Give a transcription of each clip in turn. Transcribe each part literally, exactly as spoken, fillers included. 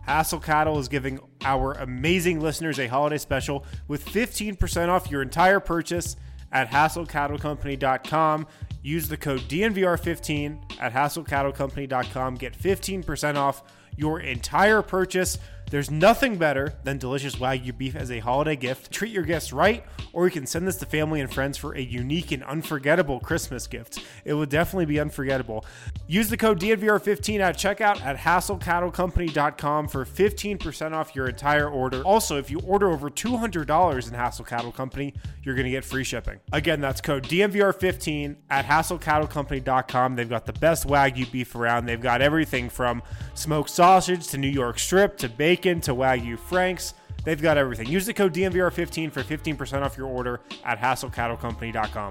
Hassel Cattle is giving our amazing listeners a holiday special with fifteen percent off your entire purchase at hassel cattle company dot com. Use the code D N V R fifteen at hassel cattle company dot com. Get fifteen percent off your entire purchase. There's nothing better than delicious Wagyu beef as a holiday gift. Treat your guests right, or you can send this to family and friends for a unique and unforgettable Christmas gift. It will definitely be unforgettable. Use the code D N V R fifteen at checkout at hassel cattle company dot com for fifteen percent off your entire order. Also, if you order over two hundred dollars in Hassel Cattle Company, you're going to get free shipping. Again, that's code D N V R fifteen at hassel cattle company dot com. They've got the best Wagyu beef around. They've got everything from smoked sausage to New York strip to bacon to Wagyu Franks. They've got everything. Use the code D N V R fifteen for fifteen percent off your order at hassel cattle company dot com.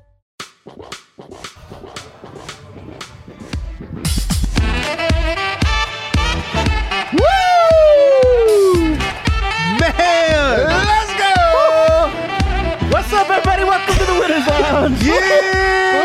Woo! Man! Let's go! What's up, everybody? Welcome to the Winners Lounge. Yeah!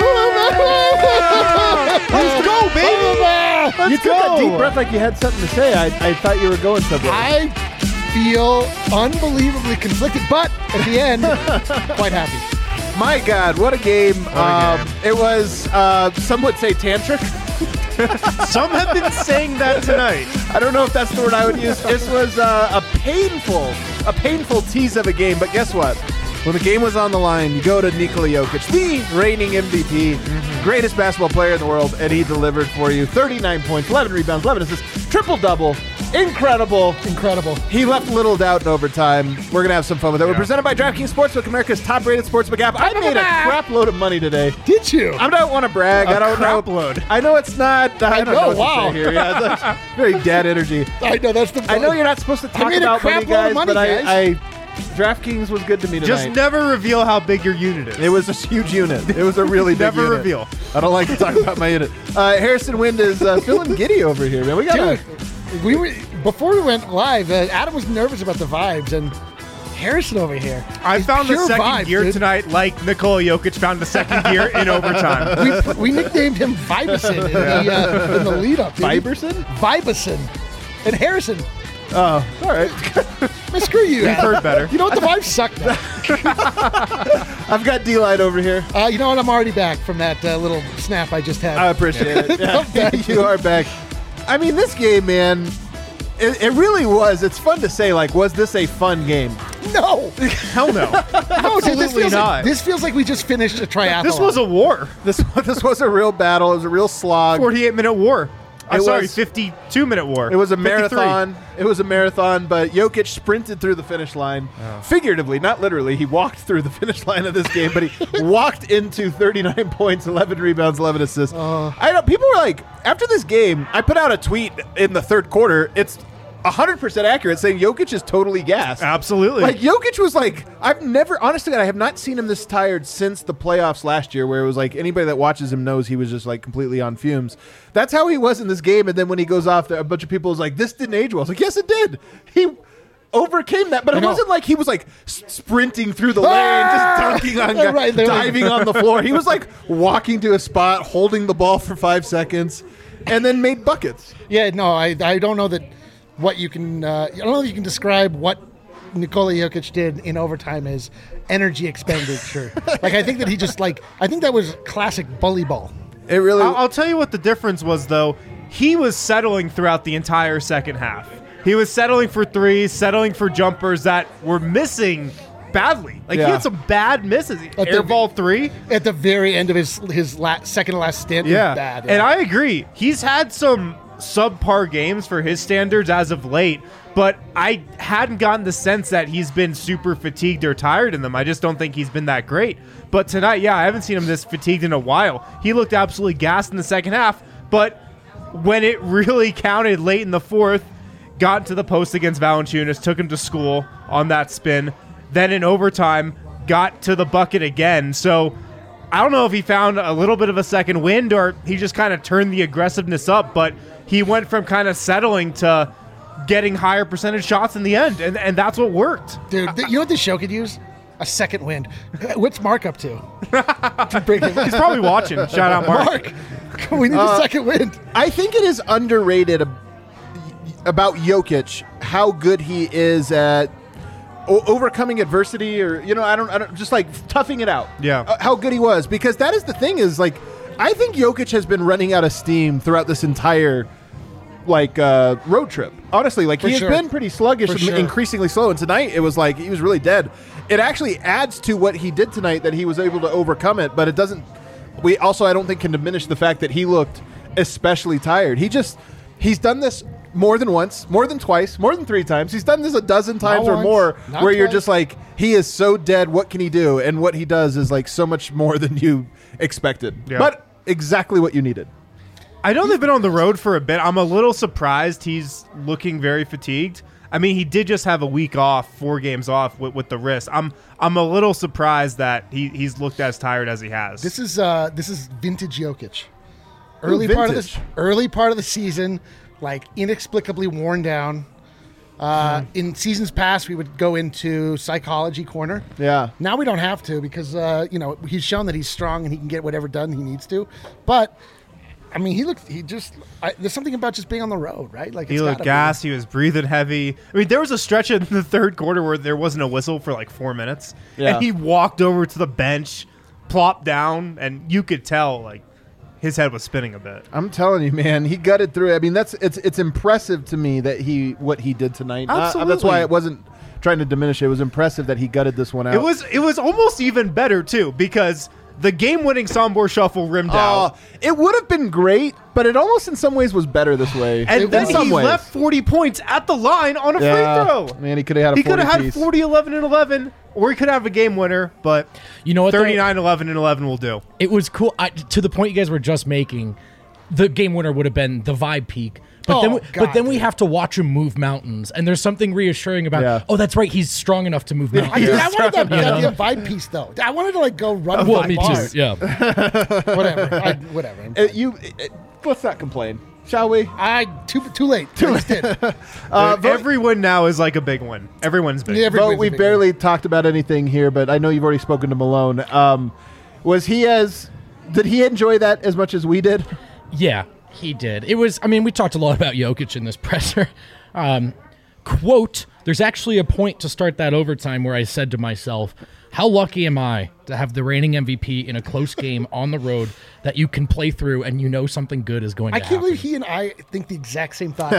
Let's go, baby! Let's you go. took a deep breath like you had something to say. I, I thought you were going somewhere. I feel unbelievably conflicted, but at the end, quite happy. My God, what a game. What a um, game. It was, uh, some would say tantric. Some have been saying that tonight. I don't know if that's the word I would use. This was uh, a painful, a painful tease of a game, but guess what? When the game was on the line, you go to Nikola Jokic, the reigning M V P, mm-hmm. greatest basketball player in the world, and he delivered for you. thirty-nine points, eleven rebounds, eleven assists, triple-double. Incredible. Incredible. He left little doubt in overtime. We're going to have some fun with it. Yeah. We're presented by DraftKings Sportsbook, America's top-rated sportsbook app. I made a crap load of money today. Did you? I don't want to brag. A I don't crap know. load. I know it's not. I, I don't know, know what wow. to say here. Yeah, it's like very dad energy. I know, that's the I know you're not supposed to talk made a about crap money, load of guys, money, but guys. I, I DraftKings was good to me tonight. Just never reveal how big your unit is. It was a huge unit. It was a really big Never unit. reveal. I don't like to talk about my unit. Uh, Harrison Wind is uh, feeling giddy over here, man. We got Dude, we were, before we went live, uh, Adam was nervous about the vibes, and Harrison over here. I is found the pure second vibes, gear dude. tonight like Nikola Jokic found the second gear in overtime. We, put- we nicknamed him Vibison in the, uh, in the lead-up. dude. Viberson? Vibison. And Harrison. Oh, all right. Man, screw you. We've Adam. heard better. You know what? The vibes suck now. I've got D-Line over here. Uh, you know what? I'm already back from that uh, little snap I just had. I appreciate it. Yeah. I'm back. You are back. I mean, this game, man, it, it really was. It's fun to say, like, was this a fun game? no. Hell no. No, dude, this Absolutely feels not. Like, this feels like we just finished a triathlon. This was a war. This this was a real battle. It was a real slog. forty-eight minute war. I'm It sorry, was- fifty-two minute war. It was a fifty-three. marathon. It was a marathon, but Jokic sprinted through the finish line. Figuratively, not literally. He walked through the finish line of this game, but he walked into thirty-nine points, eleven rebounds, eleven assists. I know people were like, after this game, I put out a tweet in the third quarter. It's one hundred percent accurate, saying Jokic is totally gassed. Absolutely. Like, Jokic was like, I've never, honestly, I have not seen him this tired since the playoffs last year, where it was like anybody that watches him knows he was just like completely on fumes. That's how he was in this game. And then when he goes off, there, a bunch of people was like, this didn't age well. I was like, yes, it did. He overcame that, but I it know. wasn't like he was like s- sprinting through the lane, just dunking on guys, Right, they're like- diving on the floor. He was like walking to a spot, holding the ball for five seconds, and then made buckets. Yeah, no, I I don't know that what you can uh, I don't know that you can describe what Nikola Jokic did in overtime as energy expenditure. Like, I think that he just like I think that was classic bully ball. It really. I'll, I'll tell you what the difference was, though. He was settling throughout the entire second half. He was settling for threes, settling for jumpers that were missing badly. Like, Yeah. he had some bad misses. But Air the- ball three. At the very end of his his la- second to last stint, Yeah. was bad. And I agree. He's had some subpar games for his standards as of late, but I hadn't gotten the sense that he's been super fatigued or tired in them. I just don't think he's been that great. But tonight, yeah, I haven't seen him this fatigued in a while. He looked absolutely gassed in the second half, but when it really counted late in the fourth, got to the post against Valanciunas, took him to school on that spin. Then in overtime, got to the bucket again. So I don't know if he found a little bit of a second wind or he just kind of turned the aggressiveness up, but he went from kind of settling to getting higher percentage shots in the end, and, and that's what worked. Dude, th- you know what this show could use? A second wind. What's Mark up to? to bring him He's probably watching. Shout out, Mark. Mark, we need Uh, a second wind. I think it is underrated. about Jokic, how good he is at o- overcoming adversity, or you know, I don't, I don't, just like toughing it out. Yeah. Uh, how good he was, because that is the thing is like, I think Jokic has been running out of steam throughout this entire like uh, road trip. Honestly, like For he sure. has been pretty sluggish For and sure. increasingly slow. And tonight it was like he was really dead. It actually adds to what he did tonight that he was able to overcome it, but it doesn't. We also, I don't think, can diminish the fact that he looked especially tired. He just he's done this more than once, more than twice, more than three times. He's done this a dozen times or once, more, not where you're twice. just like, he is so dead. What can he do? And what he does is like so much more than you expected. Yeah. But exactly what you needed. I know they've been on the road for a bit. I'm a little surprised he's looking very fatigued. I mean, he did just have a week off, four games off with, with the wrist. I'm I'm a little surprised that he, he's looked as tired as he has. This is uh, this is vintage Jokic. Early Ooh, part of vintage. the early part of the season, like inexplicably worn down. Uh, Hmm. In seasons past, we would go into psychology corner. Yeah. Now we don't have to because uh, you know he's shown that he's strong and he can get whatever done he needs to. But I mean, he looked. He just. I, there's something about just being on the road, right? Like He it's looked gotta be. gassed. He was breathing heavy. I mean, there was a stretch in the third quarter where there wasn't a whistle for like four minutes. Yeah. And he walked over to the bench, plopped down, and you could tell like his head was spinning a bit. I'm telling you, man, he gutted through it. I mean, that's it's it's impressive to me that he what he did tonight. Uh, that's Absolutely. why it wasn't trying to diminish it. It was impressive that he gutted this one out. It was it was almost even better too because the game-winning Sombor shuffle rimmed Uh, out. it would have been great, but it almost in some ways was better this way. And in then some he ways. left forty points at the line on a Yeah. free throw. Man, he could have had a He could have had forty piece. forty, eleven, and eleven, or he could have a game winner, but You know what, though? thirty-nine, eleven, and eleven will do. It was cool. I, to the point you guys were just making, the game winner would have been the vibe peak. But Oh, then, we, God, but then we dude. have to watch him move mountains, and there's something reassuring about. Yeah. Oh, that's right, he's strong enough to move I, mountains. dude, I wanted that You know? goddamn vibe piece though. I wanted to like go run. Well, five me bars. too. Yeah. Whatever. I, whatever. I'm Uh, fine. you, uh, let's not complain, shall we? I too too late. Too late. Uh, vote- Every win now is like a big win. Every win's big. Yeah, every Vote, win's a we big barely talked about anything here, but I know you've already spoken to Malone. Um, was he as? Did he enjoy that as much as we did? Yeah, he did. It was, I mean, we talked a lot about Jokic in this presser. Um, quote, there's actually a point to start that overtime where I said to myself, how lucky am I to have the reigning M V P in a close game on the road that you can play through and you know something good is going I to can't happen. believe he and I think the exact same thought.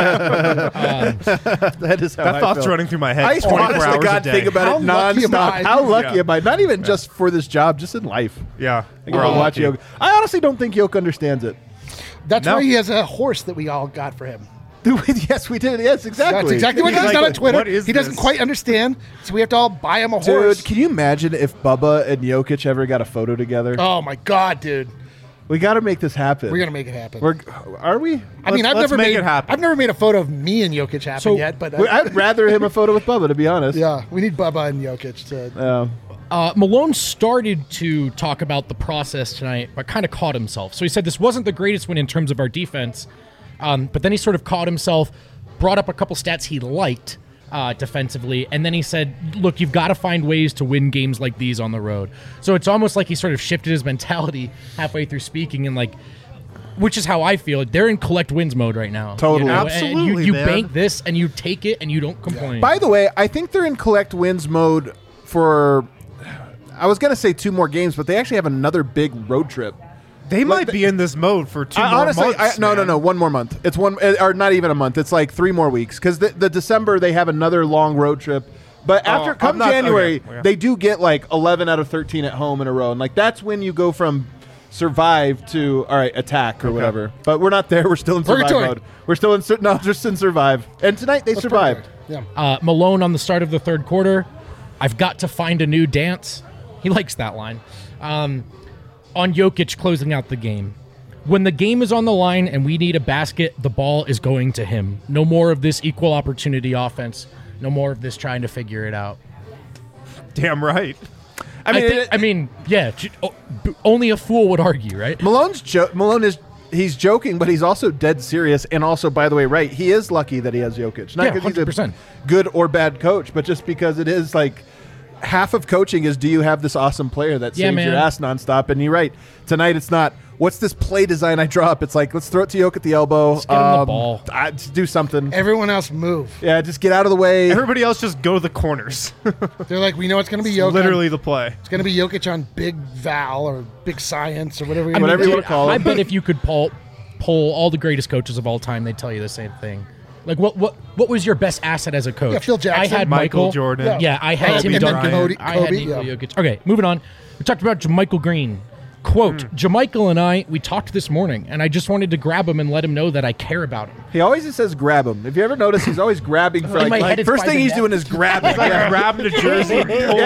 That is how that I thought's feel. running through my head I twenty-four honest to hours God a day. think about How it lucky am nonstop. I? How lucky Yeah. am I? Not even just for this job, just in life. yeah. I get We're to all watch lucky. Yoke. I honestly don't think Yoke understands it. That's No. why he has a horse that we all got for him. Yes, we did. Yes, exactly. That's exactly what He's he's like, done on Twitter. "What is He doesn't this?" quite understand, so we have to all buy him a Dude, horse. can you imagine if Bubba and Jokic ever got a photo together? Oh my god, dude, We got to make this happen. we're gonna make it happen. We're, are we? I mean, I've let's never make made it happen. I've never made a photo of me and Jokic happen So- yet, but uh, We- I'd rather him a photo with Bubba, to be honest. yeah, we need Bubba and Jokic to. Uh, Uh, Malone started to talk about the process tonight, but kind of caught himself. So he said this wasn't the greatest win in terms of our defense, um, but then he sort of caught himself, brought up a couple stats he liked uh, defensively, and then he said, look, you've got to find ways to win games like these on the road. So it's almost like he sort of shifted his mentality halfway through speaking and like, which is how I feel. They're in collect wins mode right now. Totally. And Absolutely, you, you man. bank this and you take it and you don't complain. by the way, I think they're in collect wins mode for, I was going to say two more games, but they actually have another big road trip. They might the- be in this mode for two I, more honestly, months. I, no, no, man. no, one more month. It's one, uh, or not even a month. It's like three more weeks because the, the December they have another long road trip. But after Oh, I'm come not- January, okay, yeah. they do get like eleven out of thirteen at home in a row, and like that's when you go from survive to all right attack or whatever. But we're not there. We're still in survive Purgatory. mode. We're still in sur- no, just in survive. And tonight they survived. Yeah. Uh, Malone on the start of the third quarter. I've got to find a new dance. He likes that line. Um, on Jokic closing out the game. When the game is on the line and we need a basket, the ball is going to him. No more of this equal opportunity offense. No more of this trying to figure it out. Damn right. I I, mean, think, it- I mean, yeah. j- o- b- Only a fool would argue, right? Malone's jo- Malone is he's joking, but he's also dead serious. And also, by the way, right, he is lucky that he has Jokic. Not Yeah, because one hundred he's percent. a good or bad coach, but just because it is like half of coaching is, do you have this awesome player that Yeah, saves man. your ass nonstop? And you're right. Tonight it's not, what's this play design I draw up? It's like, let's throw it to Yoke at the elbow. Just get him the ball. I, just do something. Everyone else move. Yeah, just get out of the way. Everybody else just go to the corners. They're like, we know it's going to be Jokic. Literally the play. It's going to be Jokic on Big Val or Big Science or whatever. I mean, Whatever you dude, wanna call I it. bet if you could poll, poll all the greatest coaches of all time, they'd tell you the same thing. Like, what what what was your best asset as a coach? Yeah, Phil Jackson. I had Michael Michael Jordan. Yeah. Yeah, I had Kobe Tim and then Duncan. Kobe- I had Kobe, Nikola yeah. Jokic. Okay, moving on. We talked about JaMychal Green. Quote, Mm. JaMychal and I, we talked this morning, and I just wanted to grab him and let him know that I care about him. He always just says grab him. If you ever notice, he's always grabbing for In like, my head, like it's first by thing the he's neck. doing is grabbing. Like Yeah. grabbing a jersey.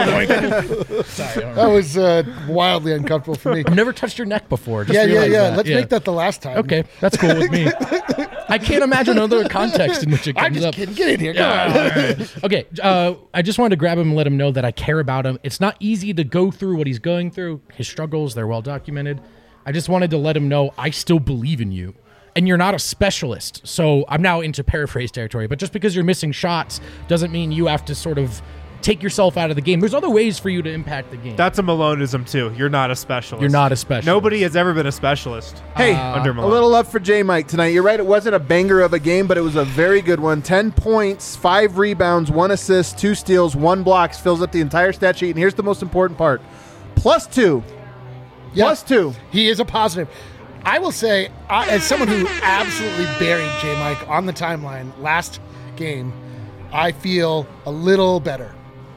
Sorry, I That was uh, wildly uncomfortable for me. have never touched your neck before. Just yeah, yeah, realized yeah. that. Let's make that the last time. Okay, that's cool with me. I can't imagine another context in which it I'm comes just up. kidding. Get in here. Come on. All right. Okay, uh, I just wanted to grab him and let him know that I care about him. It's not easy to go through what he's going through. His struggles, they're well documented. I just wanted to let him know I still believe in you. And you're not a specialist. So I'm now into paraphrase territory. But just because you're missing shots doesn't mean you have to sort of take yourself out of the game. There's other ways for you to impact the game. That's a Maloneism too. You're not a specialist. You're not a specialist. Nobody has ever been a specialist. Hey, under a Malone. little love for J. Mike tonight. You're right. It wasn't a banger of a game, but it was a very good one. Ten points, five rebounds, one assist, two steals, one blocks, fills up the entire stat sheet. And here's the most important part. Plus two. Yeah. Plus two. He is a positive. I will say, I, as someone who absolutely buried J. Mike on the timeline last game, I feel a little better.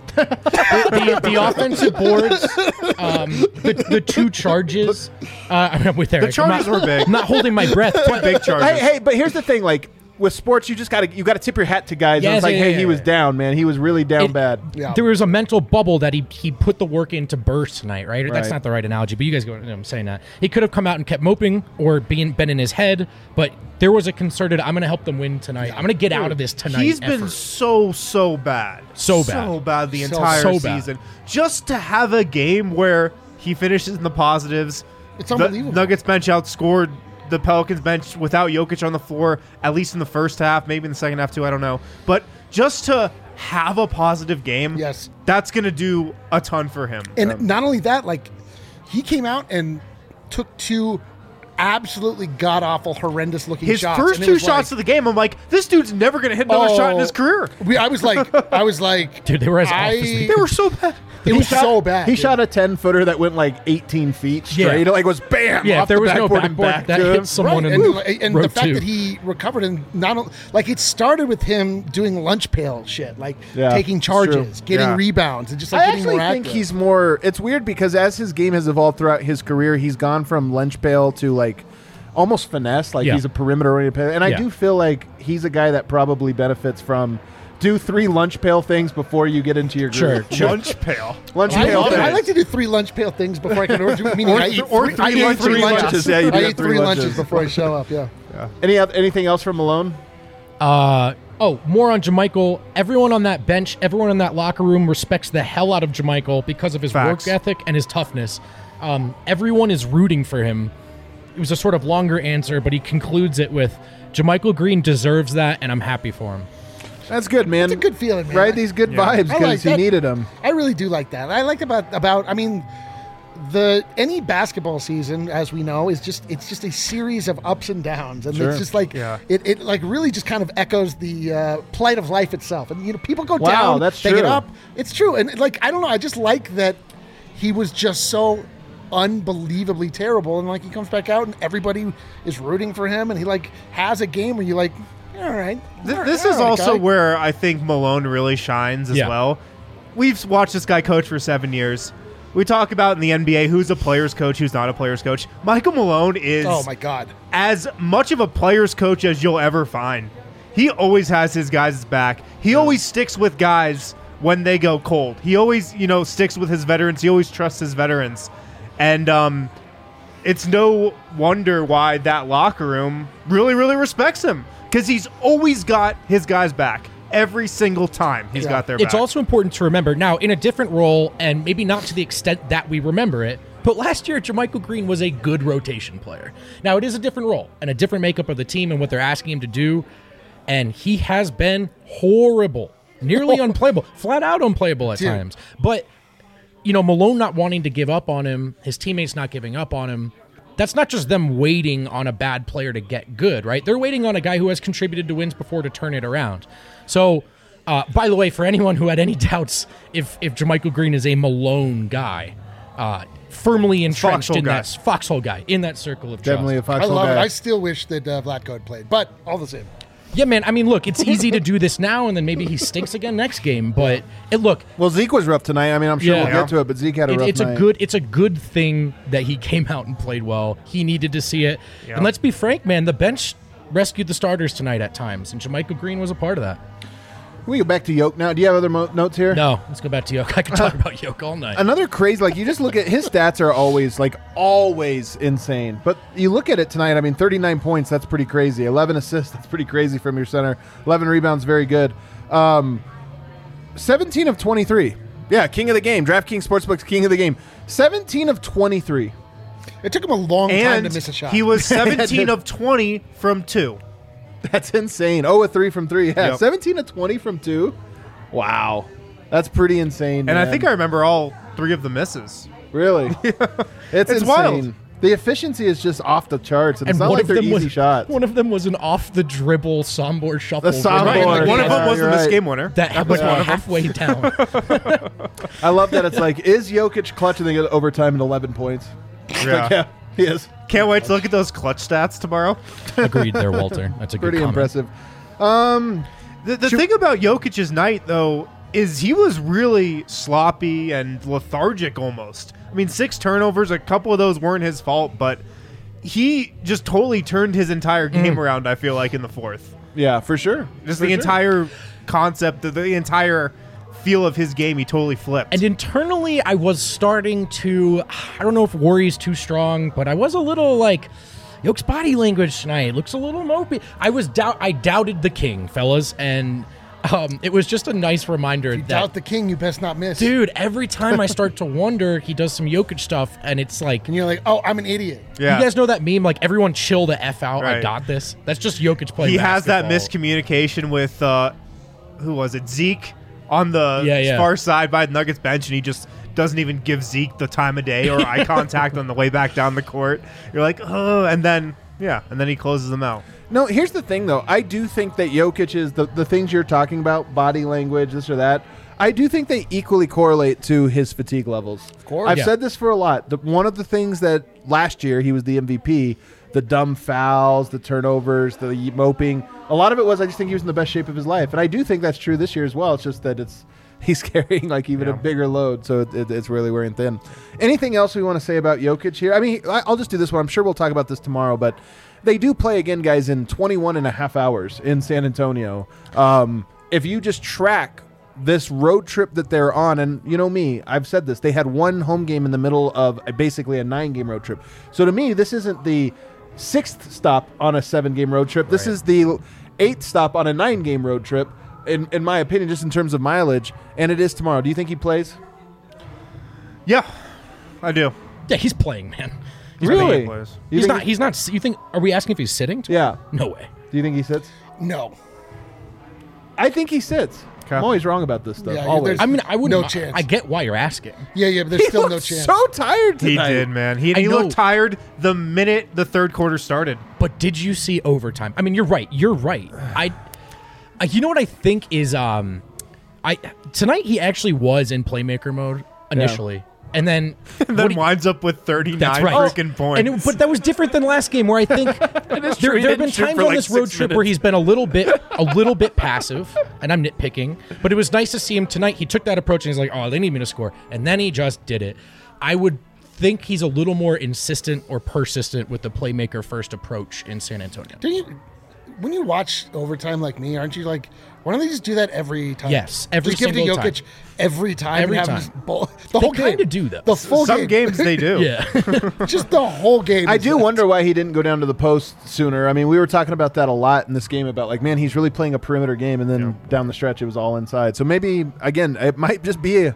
the, the offensive boards, um, the, the two charges. Uh, I'm with Eric. The charges I'm not, were big. I'm not holding my breath. But Big charges. Hey, hey, but here's the thing. Like, with sports, you just got to you got to tip your hat to guys. And Yes, it's like, yeah, hey, yeah, he yeah. was down, man. He was really down It- bad. Yeah. There was a mental bubble that he he put the work in to burst tonight, right? That's Right. not the right analogy, but you guys go. I'm saying that he could have come out and kept moping or being been in his head, but there was a concerted. I'm going to help them win tonight. I'm going to get out of this tonight. He's been effort. so, so bad. So bad. So bad the So- entire so bad. season. Just to have a game where he finishes in the positives. It's the unbelievable. Nuggets bench outscored the Pelicans bench without Jokic on the floor, at least in the first half, maybe in the second half too, I don't know. But just to have a positive game, Yes. that's going to do a ton for him. And not only that, like, he came out and took two absolutely god awful, horrendous looking His shots. first and it two was shots like, of the game, I'm like, this dude's never going to hit another shot in Oh. his career. we, I was like, I was like, Dude, they were as off I- as they They were so bad. it was shot- so bad. He dude. shot a ten footer that went like eighteen feet straight. Yeah. Like, was bam. Yeah, off if there the was no backboard and backboard, back that to him. hits someone Right, in and, and row the fact two. that he recovered and not o- like it started with him doing lunch pail shit, like Yeah, taking it's charges, true. getting Yeah. rebounds, and just like I getting actually more think active. he's more. It's weird because as his game has evolved throughout his career, he's gone from lunch pail to like almost finesse. Like Yeah. he's a perimeter oriented player, and I Yeah. do feel like he's a guy that probably benefits from do three lunch pail things before you get into your Sure, groove. sure. Lunch pail. Lunch I, pail I things. like to do three lunch pail things before I can order. Meaning Or I th- eat or three, I three eat lunches. three Three lunches. lunches, yeah, you do I have eat three three lunches. lunches before I show up. Yeah. Any oth- anything else from Malone? Uh, oh, more on JaMychal. Everyone on that bench, everyone in that locker room respects the hell out of JaMychal because of his Facts. work ethic and his toughness. Um, everyone is rooting for him. It was a sort of longer answer, but he concludes it with, JaMychal Green deserves that, and I'm happy for him. That's good, man. It's a good feeling, man. Right, these good Yeah. vibes I because like he that. needed them. I really do like that. I like about about. I mean, the any basketball season, as we know, is just it's just a series of ups and downs, and Sure. it's just like Yeah. it, it like really just kind of echoes the uh, plight of life itself. And you know, people go Wow, down, that's they get true. up. It's true, and like I don't know, I just like that he was just so unbelievably terrible, and like he comes back out, and everybody is rooting for him, and he like has a game where you like, all right. Th- all this right, is all right, also guy. where I think Malone really shines as Yeah. well. We've watched this guy coach for seven years. We talk about in the N B A who's a player's coach, who's not a player's coach. Michael Malone is Oh my god. as much of a player's coach as you'll ever find. He always has his guys' back. He always sticks with guys when they go cold. He always, you know, sticks with his veterans. He always trusts his veterans. And um, it's no wonder why that locker room really, really respects him. Because he's always got his guys' back. Every single time he's Yeah. got their It's back. also important to remember now, in a different role, and maybe not to the extent that we remember it, but last year, JaMychal Green was a good rotation player. Now, it is a different role and a different makeup of the team and what they're asking him to do, and he has been horrible. nearly unplayable, flat out unplayable at Dude. times. But, you know, Malone not wanting to give up on him, his teammates not giving up on him, that's not just them waiting on a bad player to get good, right? They're waiting on a guy who has contributed to wins before to turn it around. So, uh, by the way, for anyone who had any doubts if, if JaMychal Green is a Malone guy, uh, firmly entrenched Foxhole in guy. that foxhole guy, in that circle of Definitely a trust. I foxhole love guy. it. I still wish that uh, Vlatko had played, but all the same. Yeah, man. I mean, look, it's easy to do this now, and then maybe he stinks again next game. But it look, well, Zeke was rough tonight. I mean, I'm sure Yeah. we'll get to it, but Zeke had a it, rough it's night. a good, it's a good thing that he came out and played well. He needed to see it, Yeah. and let's be frank, man. The bench rescued the starters tonight at times, and JaMychal Green was a part of that. Can we go back to Yoke now? Do you have other mo- notes here? No, let's go back to Yoke. I could talk about Yoke all night. Another crazy, like you just look at his stats are always like always insane. But you look at it tonight. I mean, thirty-nine points. That's pretty crazy. eleven assists. That's pretty crazy from your center. eleven rebounds. Very good. Um, seventeen of twenty-three. Yeah, king of the game. DraftKings Sportsbook's king of the game. seventeen of twenty-three. It took him a long time And to miss a shot. he was seventeen of twenty from two. That's insane. Oh, a three from three. Yeah, Yep. seventeen of twenty from two. Wow, that's pretty insane. And I man. think I remember all three of the misses. really, it's, It's insane. wild. The efficiency is just off the charts, and, and it's not one like of they're them easy was shots. one of them was an off the dribble sombor shuffle. The sombor. Right, Boy, like one of them yeah, wasn't you're this right. game winner. that was halfway down. I love that. It's like, is Jokic clutch and they get overtime and eleven points? Yeah. Like, yeah, he is. Can't wait to look at those clutch stats tomorrow. Agreed there, Walter. That's a Pretty good comment. impressive. Um, The, the thing about Jokic's night, though, is he was really sloppy and lethargic almost. I mean, six turnovers, a couple of those weren't his fault, but he just totally turned his entire game around, I feel like, in the fourth. yeah, for sure. Just For the sure. entire concept, the, the entire feel of his game, he totally flipped. And internally, I was starting to, I don't know if worry's too strong, but I was a little like, Yoke's body language tonight looks a little mopey. I was doubt, I doubted the king, fellas, and um, it was just a nice reminder you that, doubt the king, you best not miss. dude, every time I start to wonder, he does some Jokic stuff, and it's like, And you're like, oh, I'm an idiot. yeah. you guys know that meme, like everyone chill the F out, I Right. got this? That's just Jokic playing he has that basketball. miscommunication with, uh, who was it, Zeke on the Yeah, yeah. far side by the Nuggets bench, and he just doesn't even give Zeke the time of day or eye contact on the way back down the court. You're like, oh, and then, yeah, and then he closes them out. No, here's the thing, though. I do think that Jokic is the, the things you're talking about, body language, this or that. I do think they equally correlate to his fatigue levels. Of course. I've Yeah. said this for a lot. The, one of the things that last year he was the M V P, the dumb fouls, the turnovers, the moping. A lot of it was I just think he was in the best shape of his life, and I do think that's true this year as well. It's just that it's he's carrying like even Yeah. a bigger load, so it, it, it's really wearing thin. Anything else we want to say about Jokic here? I mean, I- I'll just do this one. I'm sure we'll talk about this tomorrow, but they do play again, guys, in twenty-one and a half hours in San Antonio. Um, if you just track this road trip that they're on, and you know me, I've said this, they had one home game in the middle of a, basically a nine-game road trip. So to me, this isn't the sixth stop on a seven-game road trip. This Right. is the eighth stop on a nine-game road trip, in, in my opinion, just in terms of mileage, and it is tomorrow. Do you think he plays? Yeah, I do. Yeah, he's playing, man. He's Really? playing. Plays. You He's think not, he- he's not, you think, are we asking if he's sitting? Yeah. No way. Do you think he sits? No. I think he sits. Okay. I'm always wrong about this stuff. Yeah, always. there's- I mean, I wouldn't. No chance. I get why you're asking. Yeah, yeah, but there's He still no looked chance. so tired He tonight. did, man. He, I he know. looked tired the minute the third quarter started. But did you see overtime? I mean, you're right. You're right. I, I you know what I think is um, I tonight he actually was in playmaker mode initially, and then And what then he- winds up with thirty-nine That's right. freaking points. And it, but that was different than last game, where I think there, true. He there have didn't been shoot times for on like this road six trip where minutes. he's been a little bit, a little bit passive, and I'm nitpicking. But it was nice to see him tonight. He took that approach and he's like, "Oh, they need me to score," and then he just did it. I would think he's a little more insistent or persistent with the playmaker first approach in San Antonio. Do you, when you watch overtime like me, aren't you like, why don't they just do that every time? Yes, every just give it to single Jokic time. every time. Every and have time. him just bowl, the They whole game. kinda do, though. The full Some game. games they do. Yeah. just the whole game. I is do that. wonder why he didn't go down to the post sooner. I mean, we were talking about that a lot in this game about like, man, he's really playing a perimeter game, and then down the stretch it was all inside. So maybe again, it might just be a,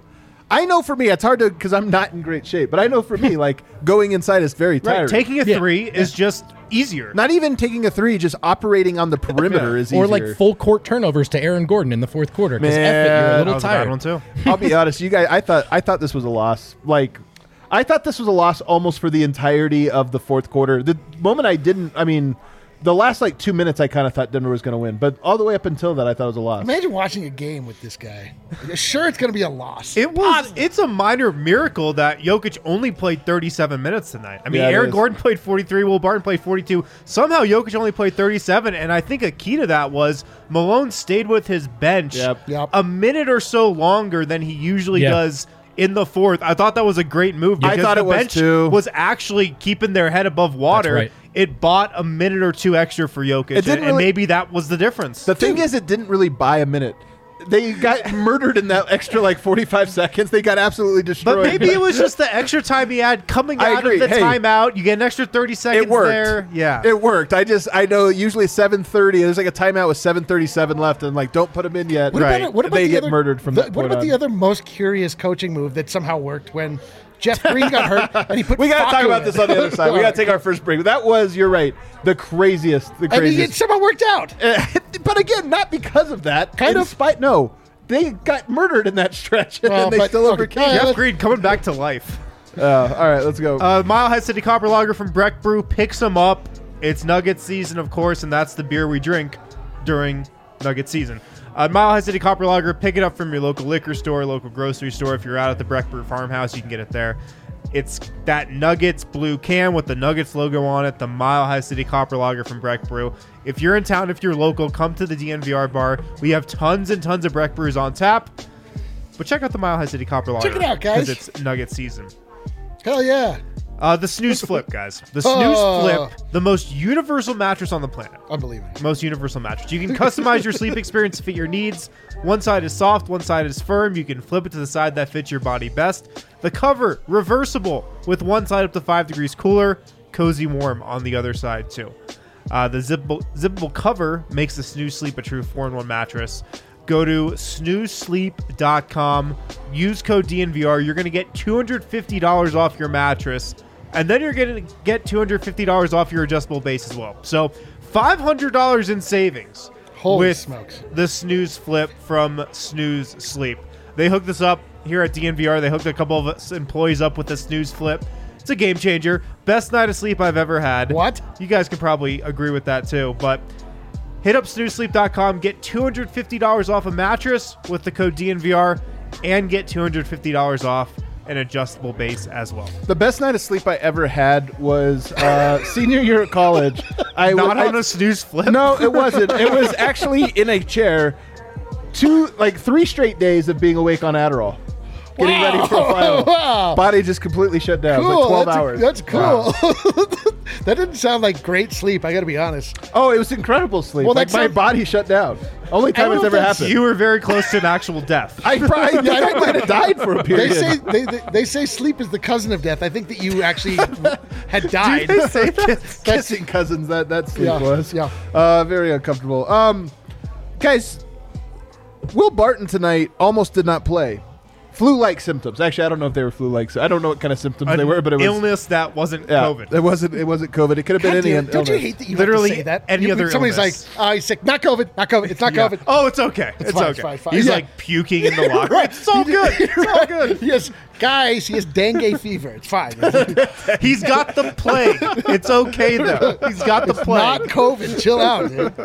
I know for me, it's hard to because I'm not in great shape. But I know for me, like going inside is very tiring. Right, taking a Yeah. three is just easier. Not even taking a three, just operating on the perimeter is easier. Or like full court turnovers to Aaron Gordon in the fourth quarter. Because F it, you're a Man, that little was a bad tired. one too. I'll be honest, you guys. I thought I thought this was a loss. Like, I thought this was a loss almost for the entirety of the fourth quarter. The moment I didn't, I mean, the last like two minutes, I kind of thought Denver was going to win, but all the way up until that, I thought it was a loss. Imagine watching a game with this guy. Sure, it's going to be a loss. It was. It's a minor miracle that Jokic only played thirty-seven minutes tonight. I mean, Yeah, it Aaron is. Gordon played forty-three, Will Barton played forty-two. Somehow Jokic only played thirty-seven, and I think a key to that was Malone stayed with his bench Yep. Yep. a minute or so longer than he usually Yeah. does in the fourth. I thought that was a great move I because thought the it was bench too. was actually keeping their head above water. right. It bought a minute or two extra for Jokic, It didn't and, and really- maybe that was the difference. The thing is, it didn't really buy a minute. They got murdered in that extra like forty-five seconds. They got absolutely destroyed. But maybe it was just the extra time he had coming I out agree. of the Hey, timeout. You get an extra thirty seconds it worked. there. Yeah. it worked. I just I know usually seven thirty. There's like a timeout with seven thirty-seven left, and like don't put them in yet. What Right. about, what about They the get other, murdered from the, that What point about the on. other most curious coaching move that somehow worked when Jeff Green got hurt and he put We got to Facu talk about in? this on the other side. We got to take our first break. That was, you're right, the craziest. The I mean, it craziest. somehow worked out. But again, not because of that. Kind in of. Spite, no, they got murdered in that stretch, and Well, then they but- still okay. overcame. Yeah, Jeff let's- Green coming back to life. Uh, all right, let's go. Uh, Mile High City Copper Lager from Breck Brew picks him up. It's Nugget season, of course, and that's the beer we drink during Nugget season. Uh, Mile High City Copper Lager, pick it up from your local liquor store, local grocery store. If you're out at the Breck Brew Farmhouse, you can get it there. It's that Nuggets blue can with the Nuggets logo on it, the Mile High City Copper Lager from Breck Brew. If you're in town, if you're local, come to the D N V R bar. We have tons and tons of Breck Brews on tap. But check out the Mile High City Copper Lager. Check it out, guys. Because it's Nugget season. Hell yeah. Uh, the Snooze Flip, guys. The Snooze Oh. Flip, the most universal mattress on the planet. Unbelievable. Most universal mattress. You can customize your sleep experience to fit your needs. One side is soft, one side is firm. You can flip it to the side that fits your body best. The cover, reversible, with one side up to five degrees cooler, cozy warm on the other side too. Uh, the zippable, zippable cover makes the Snooze Sleep a true four in one mattress. Go to snooze sleep dot com, use code D N V R. You're going to get two hundred fifty dollars off your mattress, and then you're going to get two hundred fifty dollars off your adjustable base as well. So five hundred dollars in savings Holy with smokes. the Snooze Flip from Snooze Sleep. They hooked us up here at D N V R. They hooked a couple of us employees up with the Snooze Flip. It's a game changer. Best night of sleep I've ever had. What? You guys can probably agree with that too, but hit up snooze sleep dot com, get two hundred fifty dollars off a mattress with the code D N V R, and get two hundred fifty dollars off an adjustable base as well. The best night of sleep I ever had was uh, senior year at college. I Not w- on I- a snooze flip. No, it wasn't. It was actually in a chair. Two, like three straight days of being awake on Adderall, getting ready for a final. Wow. Body just completely shut down. It was Cool. like twelve that's, hours. That's cool. That didn't sound like great sleep. I got to be honest. Oh, it was incredible sleep. Well, like that my sounds- body shut down. Only time don't it's know ever if that's- happened. You were very close to an actual death. I probably I might have died for a They period. say they, they, they say sleep is the cousin of death. I think that you actually had died. They say this. Kissing cousins. That that sleep Yeah, was. yeah. Uh, very uncomfortable. Um, guys, Will Barton tonight almost did not play. Flu-like symptoms. Actually, I don't know if they were flu-like. So I don't know what kind of symptoms they were, but it was illness that wasn't yeah, COVID. It wasn't. It wasn't COVID. It could have been God any damn, don't you illness. hate that you Literally have to say that? any You- other Somebody's illness. like, oh, he's sick. Not COVID. Not COVID. It's not Yeah. COVID. Oh, it's okay. It's, fine, okay. it's fine, fine. He's Yeah. like puking in the locker. It's all good. It's all good. Yes, guys, he has dengue fever. It's fine. He's got the plague. It's okay though. He's got the plague. Not COVID. Chill out, dude.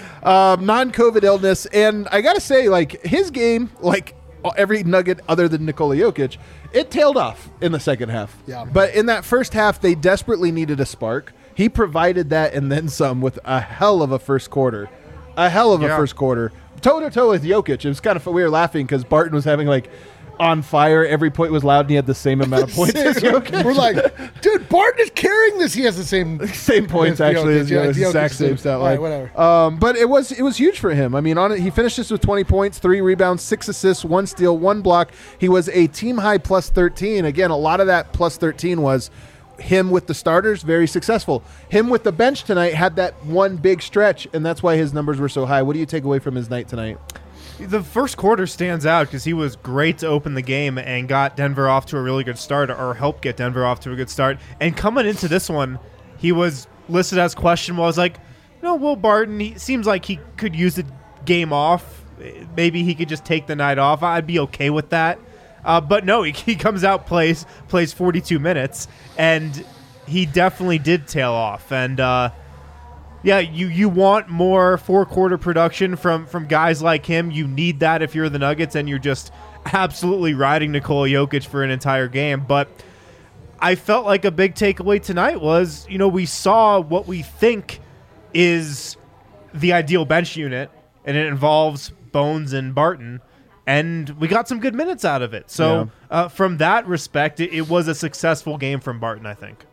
um, non-COVID illness, and I gotta say, like his game, like every Nugget other than Nikola Jokic, it tailed off in the second half. Yeah. But in that first half, they desperately needed a spark. He provided that and then some with a hell of a first quarter, a hell of a Yeah. first quarter, toe to toe with Jokic. It was kind of we were laughing because Barton was having like on fire. Every point was loud, and he had the same amount of points as Jokic. We're like, dude, Barton is carrying this. He has the same. Same points Yes, actually Jokic, as yeah, Jokic, Jokic exact is same the- stat all line. right, whatever. Um, but it was it was huge for him. I mean, on it, he finished this with twenty points, three rebounds, six assists, one steal, one block. He was a team high plus thirteen. Again, a lot of that plus thirteen was him with the starters, very successful. Him with the bench tonight had that one big stretch, and that's why his numbers were so high. What do you take away from his night tonight? The first quarter stands out because he was great to open the game and got Denver off to a really good start, or helped get Denver off to a good start. And coming into this one, he was listed as questionable. I was like, no, Will Barton, he seems like he could use the game off. Maybe he could just take the night off. I'd be okay with that. Uh, but no, he, he comes out, plays plays forty-two minutes, and he definitely did tail off. And uh, yeah, you, you want more four-quarter production from, from guys like him. You need that if you're the Nuggets and you're just absolutely riding Nikola Jokic for an entire game. But I felt like a big takeaway tonight was, you know, we saw what we think is the ideal bench unit, and it involves Bones and Barton. And we got some good minutes out of it. So yeah. uh, from that respect, it, it was a successful game from Barton, I think.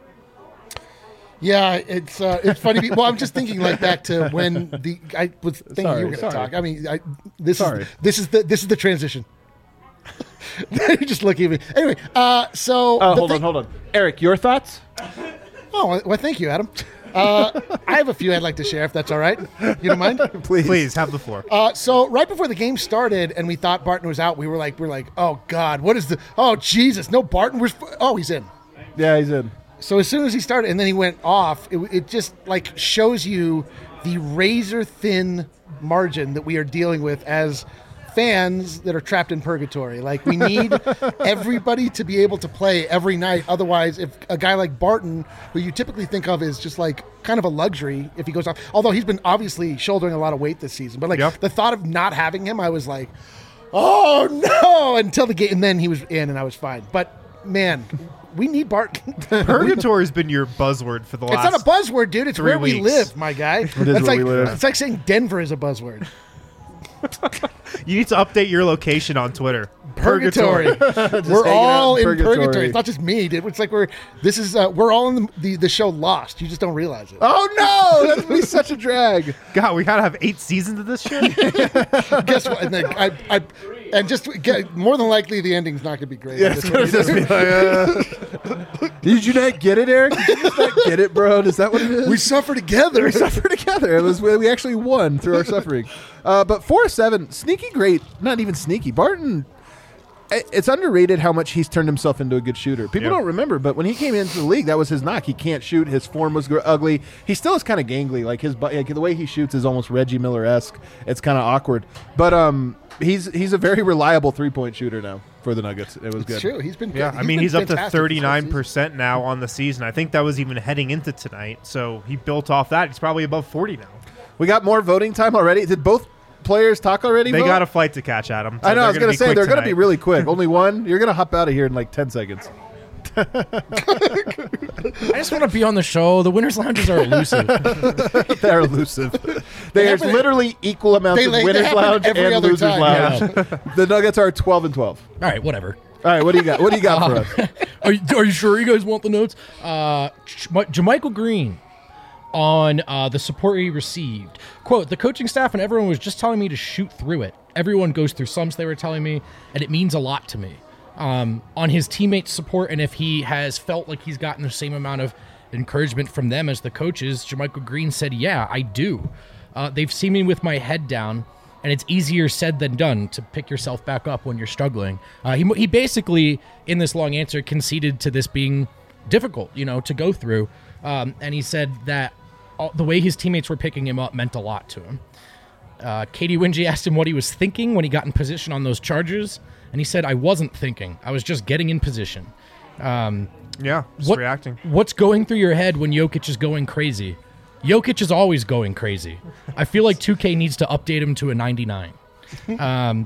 Yeah, it's uh, it's funny. Well, I'm just thinking like back to when the I was thinking Sorry, you were going to sorry. talk. I mean, I, this Sorry. is this is the this is the transition. You're just looking at me. Anyway, uh, so Oh, the hold thing- on, hold on. Eric, your thoughts? Oh, well, thank you, Adam. Uh, I have a few I'd like to share, if that's all right. You don't mind? Please. Please, have the floor. Uh, so right before the game started, and we thought Barton was out, we were like, we we're like, oh God, what is the? Oh Jesus, no Barton. We're oh, he's in. Yeah, he's in. So as soon as he started, and then he went off, it, it just like shows you the razor thin margin that we are dealing with as fans that are trapped in purgatory. Like, we need everybody to be able to play every night. Otherwise, if a guy like Barton, who you typically think of as just like kind of a luxury if he goes off, although he's been obviously shouldering a lot of weight this season, but like Yep. the thought of not having him, I was like, oh no, until the game, and then he was in and I was fine. But man, we need Barton. Purgatory's been your buzzword for the It's last not a buzzword, dude. It's three where we weeks. live, my guy. It is That's where like, we live. It's like saying Denver is a buzzword. You need to update your location on Twitter. Purgatory. we're hanging out all in in purgatory. purgatory. It's not just me, dude. It's like we're this is uh, we're all in the, the the show Lost. You just don't realize it. Oh no, that's gonna be such a drag. God, we gotta have eight seasons of this shit. Guess what? And then I, I and just get, more than likely the ending's not going to be great. Yeah, That's it's what gonna it is. just be like, uh, did you not get it, Eric? Did you just not get it, bro? Is that what it is? We suffer together. We suffer together. It was we actually won through our suffering. Uh, but four seven, sneaky great. Not even sneaky. Barton. i- It's underrated how much he's turned himself into a good shooter. People Yeah. don't remember, but when he came into the league, that was his knock. He can't shoot. His form was gr- ugly. He still is kind of gangly. Like his, bu- like the way he shoots is almost Reggie Miller esque. It's kind of awkward, but um, he's he's a very reliable three point shooter now for the Nuggets. It was good. It's true. He's been. Yeah, he's I mean, been he's up to fantastic this whole thirty-nine season. percent now on the season. I think that was even heading into tonight. So he built off that. He's probably above forty now. We got more voting time already. Did both players talk already? They vote? got a flight to catch, Adam. So I know. I was going to say they're going to be really quick. Only one. You're going to hop out of here in like ten seconds. I just want to be on the show. The winners' lounges are elusive. They're elusive. There's happen- literally equal amounts they of like- they winners happen lounge every and other losers time, lounge. The Nuggets are twelve and twelve. All right, whatever. All right, what do you got? What do you got for us? Are you, are you sure you guys want the notes? Uh, Jermichael Green on uh, the support he received. Quote, the coaching staff and everyone was just telling me to shoot through it. Everyone goes through slumps, they were telling me, and it means a lot to me. Um, on his teammates' support, and if he has felt like he's gotten the same amount of encouragement from them as the coaches, Jermichael Green said, yeah, I do. Uh, they've seen me with my head down, and it's easier said than done to pick yourself back up when you're struggling. Uh, he, he basically, in this long answer, conceded to this being difficult, you know, to go through. Um, and he said that all, the way his teammates were picking him up meant a lot to him. Uh, Katie Winge asked him what he was thinking when he got in position on those charges, and he said, I wasn't thinking. I was just getting in position. Um, Yeah, just what- reacting. What's going through your head when Jokic is going crazy? Jokic is always going crazy. I feel like two K needs to update him to a ninety-nine. Um,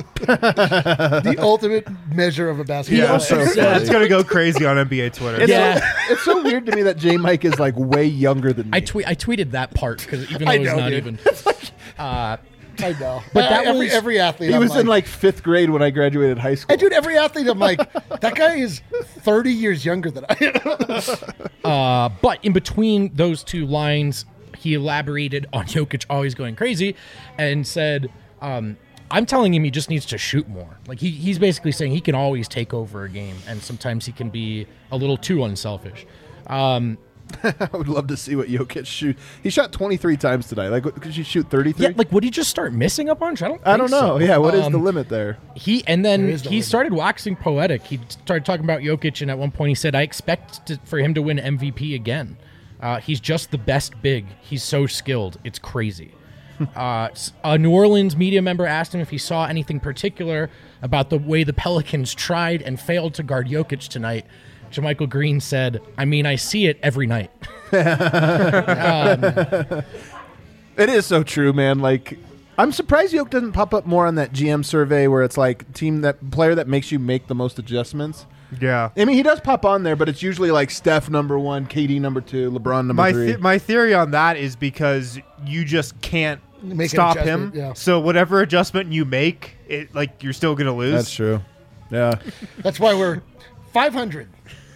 The ultimate measure of a basketball. Yeah, so Yeah, it's going to go crazy on N B A Twitter. It's, Yeah. so, it's so weird to me that J. Mike is like way younger than me. I tweet. I tweeted that part because even though I it's know, not dude. even. Uh, I know. But that every, was- every athlete. he I'm was in like fifth grade when I graduated high school. Hey, dude, every athlete, I'm like, that guy is thirty years younger than I am. Uh, but in between those two lines, he elaborated on Jokic always going crazy and said, um, I'm telling him he just needs to shoot more. Like he, he's basically saying he can always take over a game, and sometimes he can be a little too unselfish. Um, I would love to see what Jokic shoot. He shot twenty-three times today. Like, what, could you shoot thirty-three? Yeah, like would he just start missing a bunch? I don't. Think I don't know. So. Yeah, what is Um, the limit there? He and then There he is the limit. started waxing poetic. He started talking about Jokic, and at one point he said, "I expect to, for him to win M V P again. Uh, he's just the best big. He's so skilled. It's crazy." uh, s- a New Orleans media member asked him if he saw anything particular about the way the Pelicans tried and failed to guard Jokic tonight. JaMychal Green said, "I mean, I see it every night." It is so true, man. Like, I'm surprised Jokic doesn't pop up more on that G M survey where it's like team that player that makes you make the most adjustments. Yeah. I mean, he does pop on there, but it's usually like Steph number one, K D number two, LeBron number My three. th- my theory on that is because you just can't Make an stop him. adjustment, yeah. So whatever adjustment you make, it like you're still gonna lose. That's true. Yeah. That's why we're five hundred.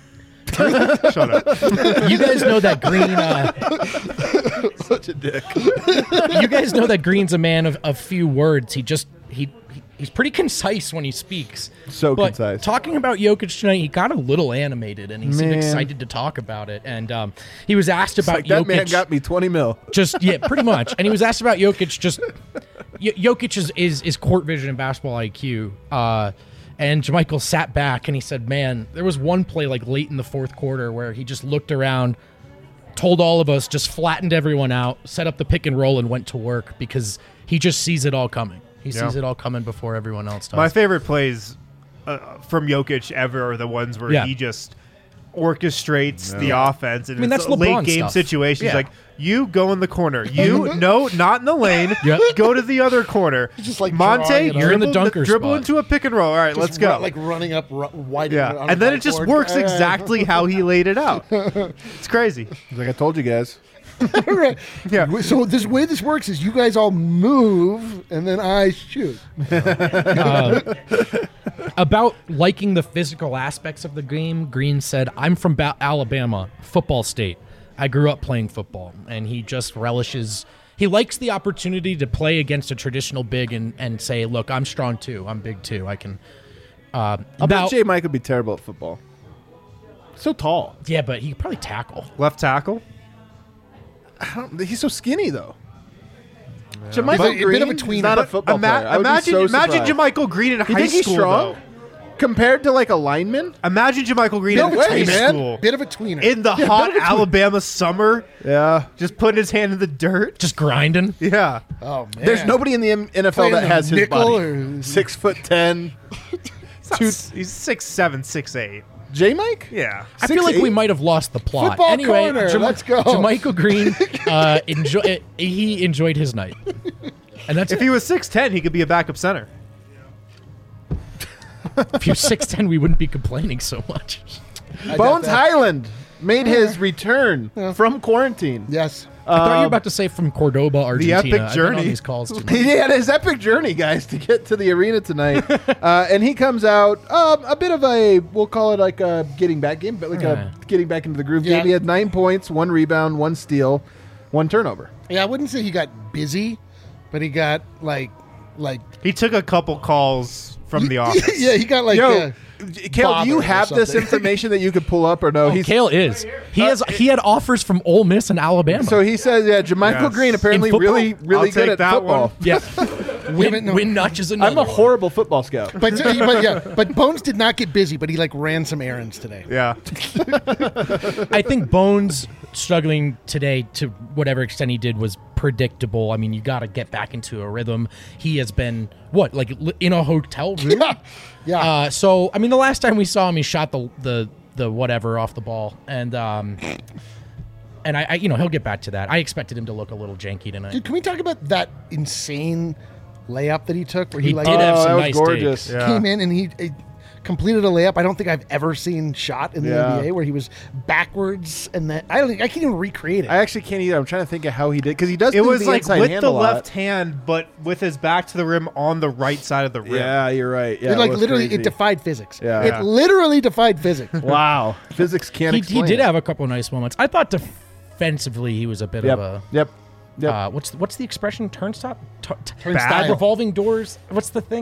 Shut up. You guys know that Green. Uh, Such a dick. you guys know that Green's a man of a few words. He just he, he he's pretty concise when he speaks. So but concise. Talking about Jokic tonight, he got a little animated and he seemed Man. excited to talk about it. And um, he was asked about Like, that Jokic. man got me twenty mil. Just yeah, pretty much. And he was asked about Jokic. Just y- Jokic is, is is court vision and basketball I Q. Uh, and JaMychal sat back and he said, "Man, there was one play like late in the fourth quarter where he just looked around, told all of us, just flattened everyone out, set up the pick and roll, and went to work because he just sees it all coming. He Yeah. sees it all coming before everyone else does." My favorite plays uh, from Jokic ever are the ones where Yeah. he just orchestrates the offense and I mean, it's that's a late LeBron game stuff. situation. He's Yeah. like, you go in the corner. You no, not in the lane. Yep. Go to the other corner. just, like, Monte, drawing it up. You're in the dribble- dunker dribble spot. into a pick and roll. All right, Just let's go. ru- like running up ru- wide. yeah, on a and then it just whiteboard. works Uh, exactly how he laid it out. It's crazy. He's like, I told you guys. Right. Yeah. So this way this works is you guys all move and then I shoot. Uh, about liking the physical aspects of the game, Green said, "I'm from ba- Alabama, football state. I grew up playing football," and he just relishes. He likes the opportunity to play against a traditional big and, and say, "Look, I'm strong too. I'm big too. I can." Uh, I about, bet J. Mike would be terrible at football. So tall. yeah, but he could probably tackle. Left tackle. I don't, he's so skinny, though. But JaMychal a bit Green of a is tweener. not a But football Ima- player. I would imagine, be so imagine surprised. JaMychal Green in You high think he's school. strong? Though. Compared to, like, a lineman? Imagine JaMychal Green No in way, high man. school Bit of a tweener. in the hot Alabama summer, Yeah. just putting his hand in the dirt. Just grinding. Yeah. oh man. There's nobody in the M- N F L Playing that the has his nickel body. or- Six foot ten. Two, he's six seven, six eight. J. Mike? Yeah. I feel like Six, we eight? might have lost the plot. Football anyway, corner, Jam- let's go. JaMychal Green uh, enjoy. He enjoyed his night, and that's If it. he was six ten, he could be a backup center. If he was six ten, we wouldn't be complaining so much. I got Bones that. Highland made his return from quarantine. Yes. I thought you were about to say from Cordoba, Argentina. epic I've been on journey. these calls too much. He had his epic journey, guys, to get to the arena tonight. uh, and he comes out um, a bit of a, we'll call it like a getting back game, but like Yeah. a getting back into the groove Yeah. game. He had nine points, one rebound, one steal, one turnover. Yeah, I wouldn't say he got busy, but he got like like He took a couple calls from the office. yeah, he got like Yo, uh, Kale, do you bothered or have this something. information that you could pull up or no? Oh, He's, Kale is. He has. He had offers from Ole Miss and Alabama. so he says, yeah, JaMychal Yes. Green apparently In football? really, really I'll good take at that football. one. yeah, Damn it, win, no. win notches another. I'm a one. horrible football scout. but, but yeah, but Bones did not get busy, but he like ran some errands today. Yeah. I think Bones struggling today to whatever extent he did was predictable. I mean, you got to get back into a rhythm. He has been what, like li- in a hotel room. Yeah. Yeah. Uh, so I mean, the last time we saw him, he shot the the the whatever off the ball, and um, and I, I you know he'll get back to that. I expected him to look a little janky tonight. Dude, can we talk about that insane layup that he took where he, He like did have Oh, some that was nice gorgeous. digs. Yeah. came in and he, he completed a layup I don't think I've ever seen shot in the Yeah. N B A where he was backwards and that I don't think I can't even recreate it. I actually can't either. I'm trying to think of how he did because he does. It do was the like inside with hand the a lot. left hand, but with his back to the rim on the right side of the rim. Yeah, you're right. Yeah, it like was literally crazy. it defied physics. Yeah. It Yeah. literally defied physics. Wow, physics can't He, explain. he did it. have a couple of nice moments. I thought defensively he was a bit Yep. of a. Yep. Yep. Uh, what's the, what's the expression? Turnstile, T- t- Turnstile. revolving doors. What's the thing?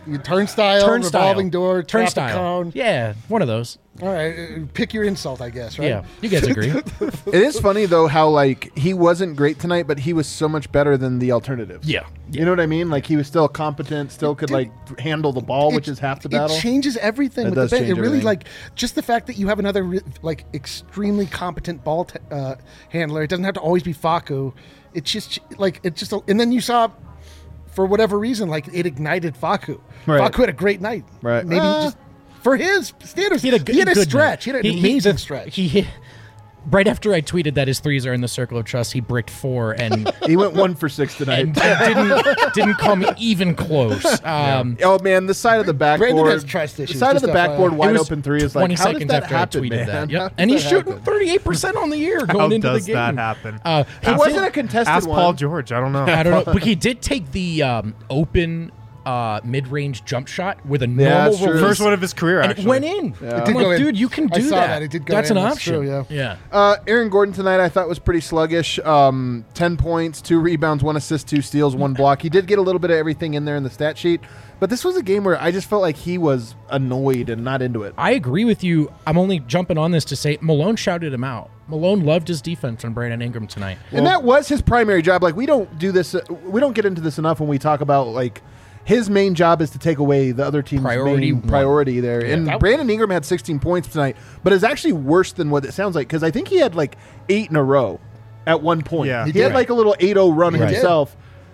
Turnstile, Turnstile. revolving door, traffic Turnstile. cone. Yeah, one of those. All right, uh, pick your insult, I guess, right? Yeah, you guys agree. It is funny though how like he wasn't great tonight, but he was so much better than the alternatives. Yeah. You know what I mean? Like he was still competent, still could like handle the ball, which It- is half the battle. It changes everything. It with does the bench. change It really everything. like just the fact that you have another re- like extremely competent ball t- uh, handler. It doesn't have to always be Facu. It's just like it's just, a, and then you saw, for whatever reason, like it ignited Facu. Right. Facu had a great night. Right. Maybe Uh, just for his standards. He had a, good, he had a good stretch. night. He had an He- amazing the- stretch. He hit. Right after I tweeted that his threes are in the circle of trust, he bricked four and He went one for six tonight. and didn't didn't come even close. Um, Oh man, the side of the backboard. Brandon has trust the issues, side of just the F Y I. backboard It wide was open three is twenty like how does seconds that after happen, I tweeted man? that. How Yep. does And he's that shooting happen? thirty-eight percent on the year going How into does the game. that happen? Uh, he It wasn't did- a contested Ask one. Paul George. I don't know. I don't know, but he did take the um, open uh, mid-range jump shot with a Yeah, normal that's true. release, First one of his career, and actually. it went in. It I'm did like, go in. dude, you can I do saw that. that. It did go That's in. an That's option. true, yeah. yeah. Uh, Aaron Gordon tonight I thought was pretty sluggish. Um, ten points, two rebounds, one assist, two steals, one block. He did get a little bit of everything in there in the stat sheet, but this was a game where I just felt like he was annoyed and not into it. I agree with you. I'm only jumping on this to say Malone shouted him out. Malone loved his defense on Brandon Ingram tonight. And that was his primary job. Like we don't do this. Uh, we don't get into this enough when we talk about like his main job is to take away the other team's Priority main one. priority there. And That- Brandon Ingram had sixteen points tonight, but it's actually worse than what it sounds like because I think he had like eight in a row at one point. Yeah. he, He had did. like a little eight oh run He did. himself.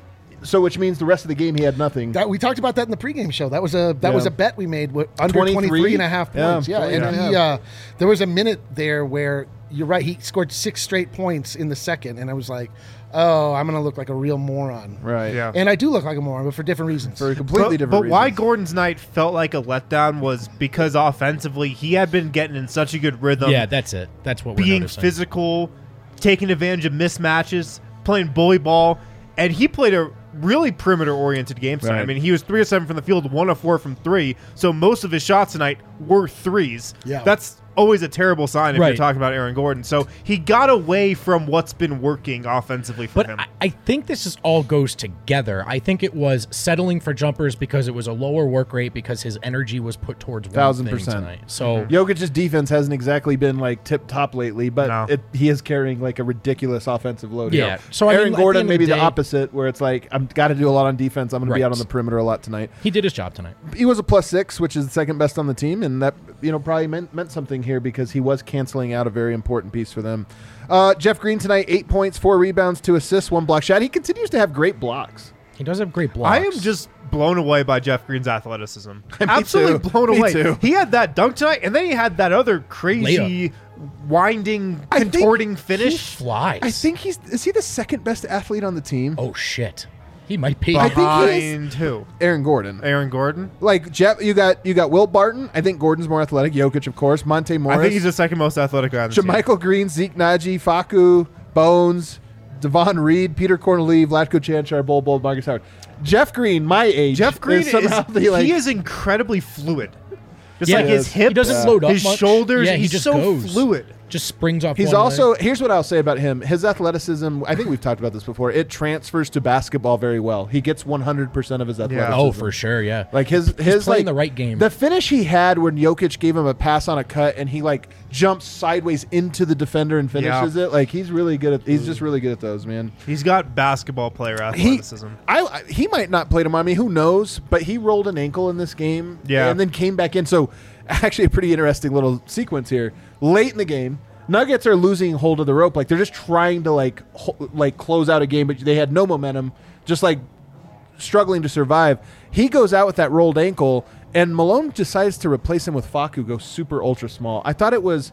So which means the rest of the game he had nothing. That, we talked about that in the pregame show. That was a that Yeah. was a bet we made with under twenty-three? twenty-three and a half Yeah, points. Yeah, twenty and and a he, half. uh, there was a minute there where you're right. He scored six straight points in the second, and I was like, "Oh, I'm going to look like a real moron." right. Yeah. And I do look like a moron, but for different reasons. For completely but, different but why reasons. Gordon's night felt like a letdown was because offensively he had been getting in such a good rhythm. yeah, that's it. That's what we're being noticing. physical, taking advantage of mismatches, playing bully ball, and he played a really perimeter-oriented game tonight. Right. I mean, he was three of seven from the field, one of four from three, so most of his shots tonight were threes. Yeah. That's always a terrible sign if Right. you're talking about Aaron Gordon. So he got away from what's been working offensively for But him. I, I think this is all goes together. I think it was settling for jumpers because it was a lower work rate because his energy was put towards one Thousand thing percent. tonight. So Jokic's defense hasn't exactly been like tip top lately, but No. it, he is carrying like a ridiculous offensive load. Yeah. here. So, I Aaron mean, at the Gordon end of maybe the the, day- opposite, where it's like I'm got to do a lot on defense. I'm going to be Right. out on the perimeter a lot tonight. he did his job tonight. He was a plus six, which is the second best on the team, and that you know probably meant meant something here because he was canceling out a very important piece for them. Uh, Jeff Green tonight, eight points, four rebounds, two assists, one block shot. He continues to have great blocks. He does have great blocks. I am just blown away by Jeff Green's athleticism. Absolutely too. blown Me away. too. He had that dunk tonight, and then he had that other crazy, winding, I think contorting he finish. flies. I think he's is he the second best athlete on the team? Oh shit, he might be. I think he Behind who? Aaron Gordon. Aaron Gordon? Like Jeff, you got you got Will Barton. I think Gordon's more athletic. Jokic, of course. Monte Morris. I think he's the second most athletic guy on the team. Jermichael Green, Zeke Naji, Facu, Bones, Devon Reed, Peter Cornelieve, Vlatko Chanchar, Bol Bol, Marcus Howard. Jeff Green, my age. Jeff Green is is, somehow the, like, he is incredibly fluid. Just Yeah, like he his is. hips, He doesn't load up his much. shoulders. Yeah, he he's just so goes. fluid. Just springs off. He's one also leg. here's what I'll say about him. His athleticism, I think we've talked about this before. It transfers to basketball very well. He gets one hundred percent of his athleticism. Oh, for sure. Yeah. Like his his playing like the right game. The finish he had when Jokic gave him a pass on a cut and he like jumps sideways into the defender and finishes it. Like he's really good at he's just really good at those, man. He's got basketball player He athleticism. I, I he might not play tomorrow. I mean, who knows? But he rolled an ankle in this game, Yeah. and then came back in. So actually, a pretty interesting little sequence here. Late in the game, Nuggets are losing hold of the rope. Like they're just trying to like ho- like close out a game, but they had no momentum. Just like struggling to survive. He goes out with that rolled ankle, and Malone decides to replace him with Facu, go super ultra small. I thought it was.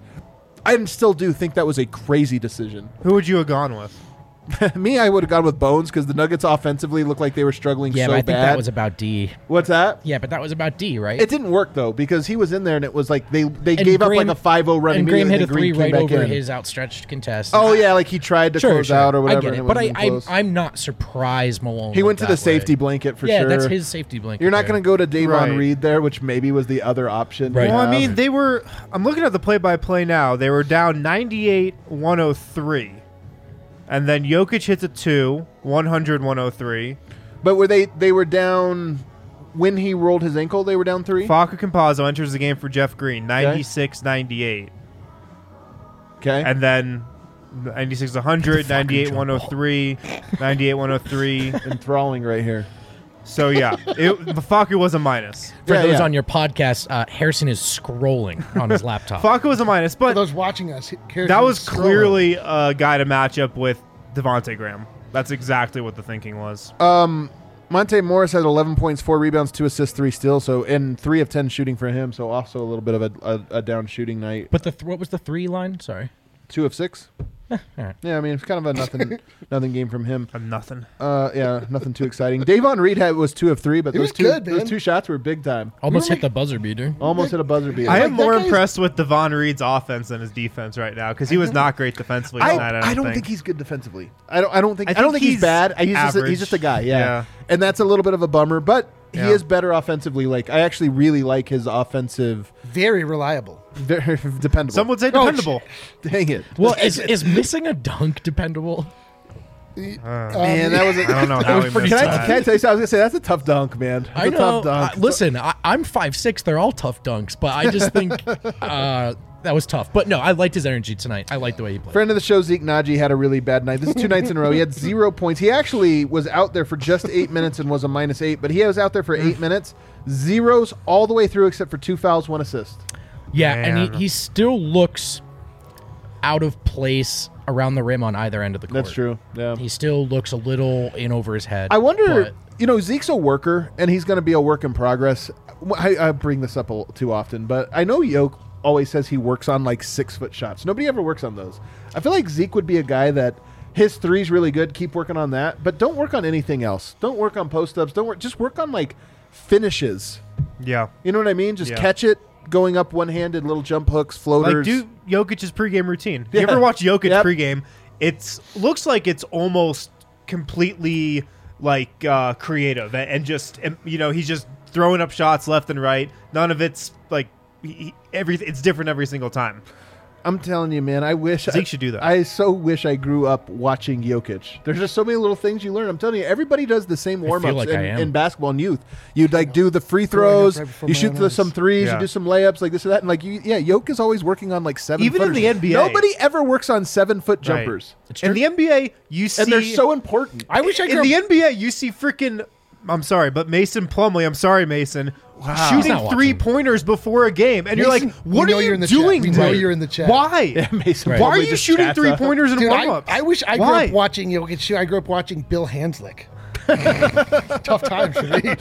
I still do think that was a crazy decision. Who would you have gone with? Me, I would have gone with Bones because the Nuggets offensively looked like they were struggling Yeah, so but I think bad. that was about D. What's that? Yeah, but that was about D, right? It didn't work though because he was in there and it was like they they And gave Graham- up like a five oh run and Graham immediately. hit a and then Green three came right back over in. his outstretched contest. Oh yeah, like he tried to sure, close sure. out or I whatever. get and it, it but I, wasn't I'm close. I'm not surprised Malone. He went went to the that way. safety blanket for yeah, sure. that's his safety blanket. You're not there. going to go to Davon Right. Reed there, which maybe was the other option. Right. to Well, I have. mean, they were. I'm looking at the play-by-play now. They were down ninety-eight one oh three, and then Jokic hits a two, one hundred one oh three. but were they they were down when he rolled his ankle, they were down three. Facu Campazzo enters the game for Jeff Green, ninety-six ninety-eight. Okay. And then ninety-six one hundred, ninety-eight one oh three, ninety-eight one oh three. Enthralling right here. So, yeah, it, Facu was a minus. For Yeah, those yeah. on your podcast, uh, Harrison is scrolling on his laptop. Facu was a minus, For but those watching us, here's that was scrolling. clearly a guy to match up with Devontae Graham. That's exactly what the thinking was. Um, Monte Morris had eleven points, four rebounds, two assists, three steals. So, and three of ten shooting for him. So, also a little bit of a, a, a down shooting night. But the th- what was the three line? Sorry. Two of six. all right. Yeah, I mean it's kind of a nothing, nothing game from him. A nothing. Uh, yeah, nothing too exciting. Davon Reed had was two of three, but He those was two good, those man. two shots were big time. Almost were hit the buzzer beater. Almost hit a buzzer beater. I Like, am that more guy's- impressed with Devon Reed's offense than his defense right now because he was not great defensively I, tonight. I don't, I don't think. think. he's good defensively. I don't. I don't think. I I, don't think think he's, he's bad. He's just, a, average. he's just a guy. Yeah. Yeah. and that's a little bit of a bummer. But he Yeah. is better offensively. Like I actually really like his offensive. Very reliable. Very dependable. Some would say Oh, dependable. Dang it. Well, is, is missing a dunk dependable? Man, that was. A, I don't know how he pretty missed Can I, that. can I tell you something? I was gonna say that's a tough dunk, man. That's I a know. tough dunk. Uh, listen, I, I'm five six. They're all tough dunks, but I just think uh, that was tough. But no, I liked his energy tonight. I liked the way he played. Friend of the show, Zeke Naji, had a really bad night. This is two nights in a row. He had zero points. He actually was out there for just eight minutes and was a minus eight, but he was out there for eight minutes. Zeros all the way through except for two fouls, one assist. Yeah, Man. and he, he still looks out of place around the rim on either end of the court. That's true. Yeah. He still looks a little in over his head. I wonder, but- you know, Zeke's a worker, and he's going to be a work in progress. I, I bring this up a little too often, but I know Yoke always says he works on like six-foot shots. Nobody ever works on those. I feel like Zeke would be a guy that his three's really good. Keep working on that, but don't work on anything else. Don't work on post-ups. Don't work. Just work on like finishes. Yeah. You know what I mean? Just Yeah. catch it, going up one-handed, little jump hooks, floaters. Like, do Jokic's pregame routine. Yeah. You ever watch Jokic Yep. pregame? It's looks like it's almost completely like uh, creative and, and just and, you know he's just throwing up shots left and right. None of it's like he, he- every it's different every single time. I'm telling you, man, I wish Zeke I, should do that. I so wish I grew up watching Jokic. There's just so many little things you learn. I'm telling you, everybody does the same warm ups like in, I am. in basketball and youth. You like do the free Growing up throws, right before you my shoot own the, eyes. some threes, Yeah. you do some layups, like this or that, and like you, yeah, Jokic is always working on like seven. Even in footers. the N B A. nobody ever works on seven foot jumpers, It's In true. the N B A, you see and they're so important. I wish I in grew the up. N B A you see freaking. I'm sorry, but Mason Plumlee. I'm sorry, Mason. He's Shooting not watching. three pointers before a game, and you're Mason, like, "What we know are you you're in the doing?" chat. We know tonight? you're in the chat. Why? Yeah, Mason Right. Why are Plumlee you just shooting chats three up. pointers in Dude, warm I, ups? I wish I grew Why? up watching Jokic. I grew up watching Bill Hanslick. Tough times for me.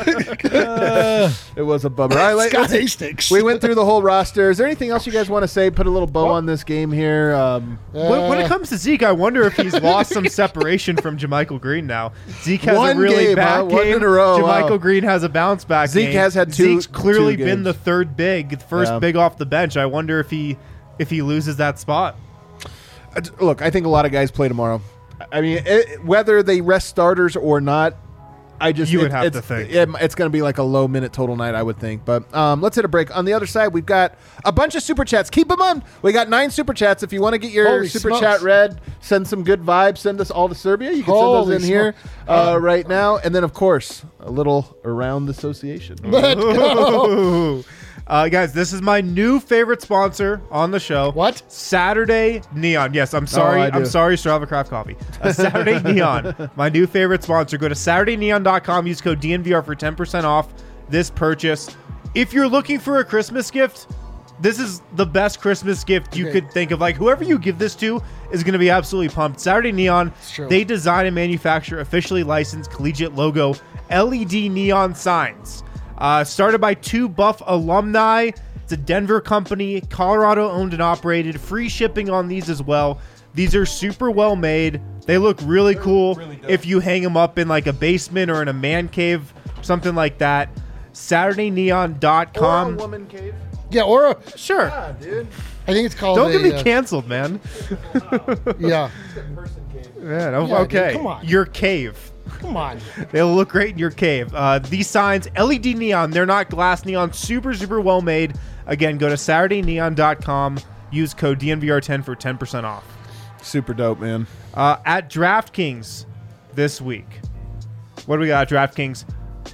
It was a bummer. I like, Scott Hastings. we went through the whole roster. Is there anything else you guys want to say? Put a little bow on this game here. Um, When, when it comes to Zeke, I wonder if he's lost some separation from JaMychal Green now. Zeke has One a really game, bad huh? One game. in a row, JaMychal wow. Green has a bounce back Zeke game. has had two- Zeke's clearly two been the games. third big, the first Yeah. big off the bench. I wonder if he if he loses that spot. Uh, Look, I think a lot of guys play tomorrow. I mean, it, whether they rest starters or not, I just You would it- have it's, to think. it- it's going to be like a low minute total night, I would think. But um, let's hit a break. On the other side, we've got a bunch of super chats. Keep them on. We got nine super chats. If you want to get your Holy super smokes. chat read, send some good vibes. Send us all to Serbia. You can Holy send those in here uh, right now. And then, of course, a little around the association. Let's go. Ooh. Uh, guys, this is my new favorite sponsor on the show. What? Saturday Neon. Yes, I'm sorry. Oh, I do. I'm sorry, Strava Craft Coffee. Uh, Saturday Neon, my new favorite sponsor. Go to Saturday Neon dot com. Use code D N V R for ten percent off this purchase. If you're looking for a Christmas gift, this is the best Christmas gift you Okay. could think of. Like, whoever you give this to is going to be absolutely pumped. Saturday Neon, true. they design and manufacture officially licensed collegiate logo L E D neon signs. Uh, started by two Buff alumni. It's a Denver company, Colorado owned and operated. Free shipping on these as well. These are super well made. They look really cool if you hang them up in like a basement or in a man cave, something like that. Saturday Neon dot Or a com. woman cave. Yeah, or a, Sure. Ah, dude. I think it's called. Don't a, get me uh, canceled, man. Yeah, Person cave. Man, oh, Yeah, dude, okay. come on. Your cave. come on. They'll look great in your cave. Uh, these signs, L E D neon, they're not glass neon. Super, super well made. Again, go to Saturday Neon dot com. Use code D N V R ten for ten percent off. Super dope, man. Uh, at DraftKings this week. What do we got at DraftKings?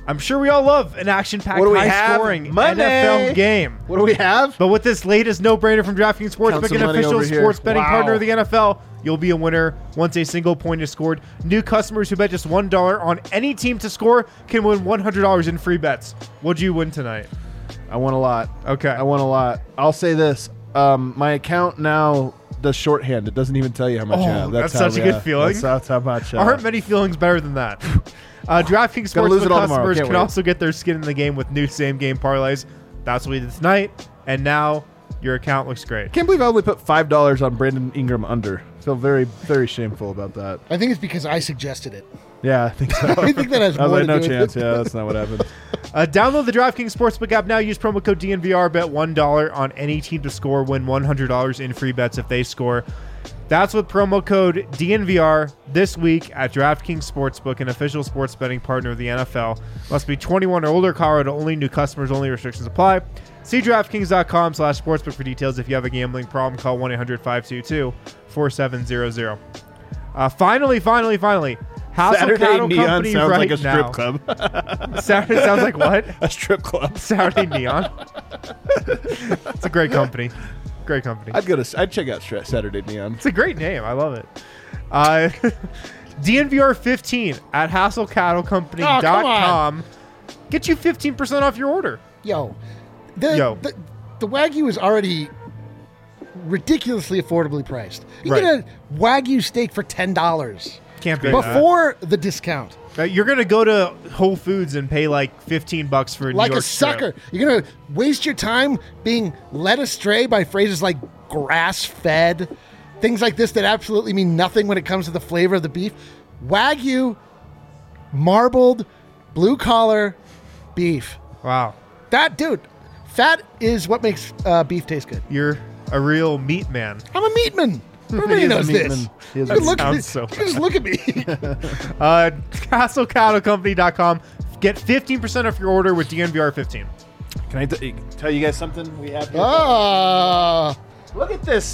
I'm sure we all love an action-packed, What do we have? high-scoring Monday. N F L game. What do we have? But with this latest no-brainer from DraftKings Count Sportsbook, some an money official over here. sports betting Wow. partner of the N F L, you'll be a winner once a single point is scored. New customers who bet just one dollar on any team to score can win one hundred dollars in free bets. What'd you win tonight? I won a lot. Okay. I won a lot. I'll say this. Um, my account now does shorthand. It doesn't even tell you how much Oh, you have. that's how, such a good yeah, feeling. That's, that's how much. Uh, Aren't many feelings better than that? Uh, DraftKings Gonna lose Sportsbook it all tomorrow. customers Can't can wait. also get their skin in the game with new same-game parlays. That's what we did tonight, and now your account looks great. Can't believe I only put five dollars on Brandon Ingram under. Feel very, very shameful about that. I think it's because I suggested it. Yeah, I think so. I think that has I was more like, to no do with chance. it. Yeah, that's not what happened. Uh, download the DraftKings Sportsbook app now. Use promo code D N V R. Bet one dollar on any team to score. Win one hundred dollars in free bets if they score. That's with promo code D N V R this week at DraftKings Sportsbook, an official sports betting partner of the N F L. Must be twenty-one or older. Colorado only. New customers only. Restrictions apply. See DraftKings.com slash sportsbook for details. If you have a gambling problem, call one eight hundred five two two four seven zero zero. Uh, finally, finally, finally. Hassel Saturday Cattle Neon Company sounds right like a strip now. club. Saturday sounds like what? A strip club. Saturday Neon. It's a great company. Great company. I'd go to. I'd check out Stra- Saturday Neon. It's a great name. I love it. Uh, D N V R fifteen at hassel cattle company dot com. Get you fifteen percent off your order. Yo, the, Yo. the the Wagyu is already ridiculously affordably priced. You Right. get a Wagyu steak for ten dollars Can't be before the discount. Uh, you're gonna go to Whole Foods and pay like fifteen bucks for a Like New York a sucker. strip. You're going to waste your time being led astray by phrases like grass-fed, things like this that absolutely mean nothing when it comes to the flavor of the beef. Wagyu, marbled, blue-collar beef. Wow, That, dude, fat is what makes uh, beef taste good. you're a real meat man. I'm a meatman. Everybody He is a knows this. meatman. He is a You can look meatman. at Sounds me. so Just look at me. Uh, hassel cattle company dot com. Get fifteen percent off your order with D N V R fifteen. Can I t- tell you guys something we have here? Ah. Look at this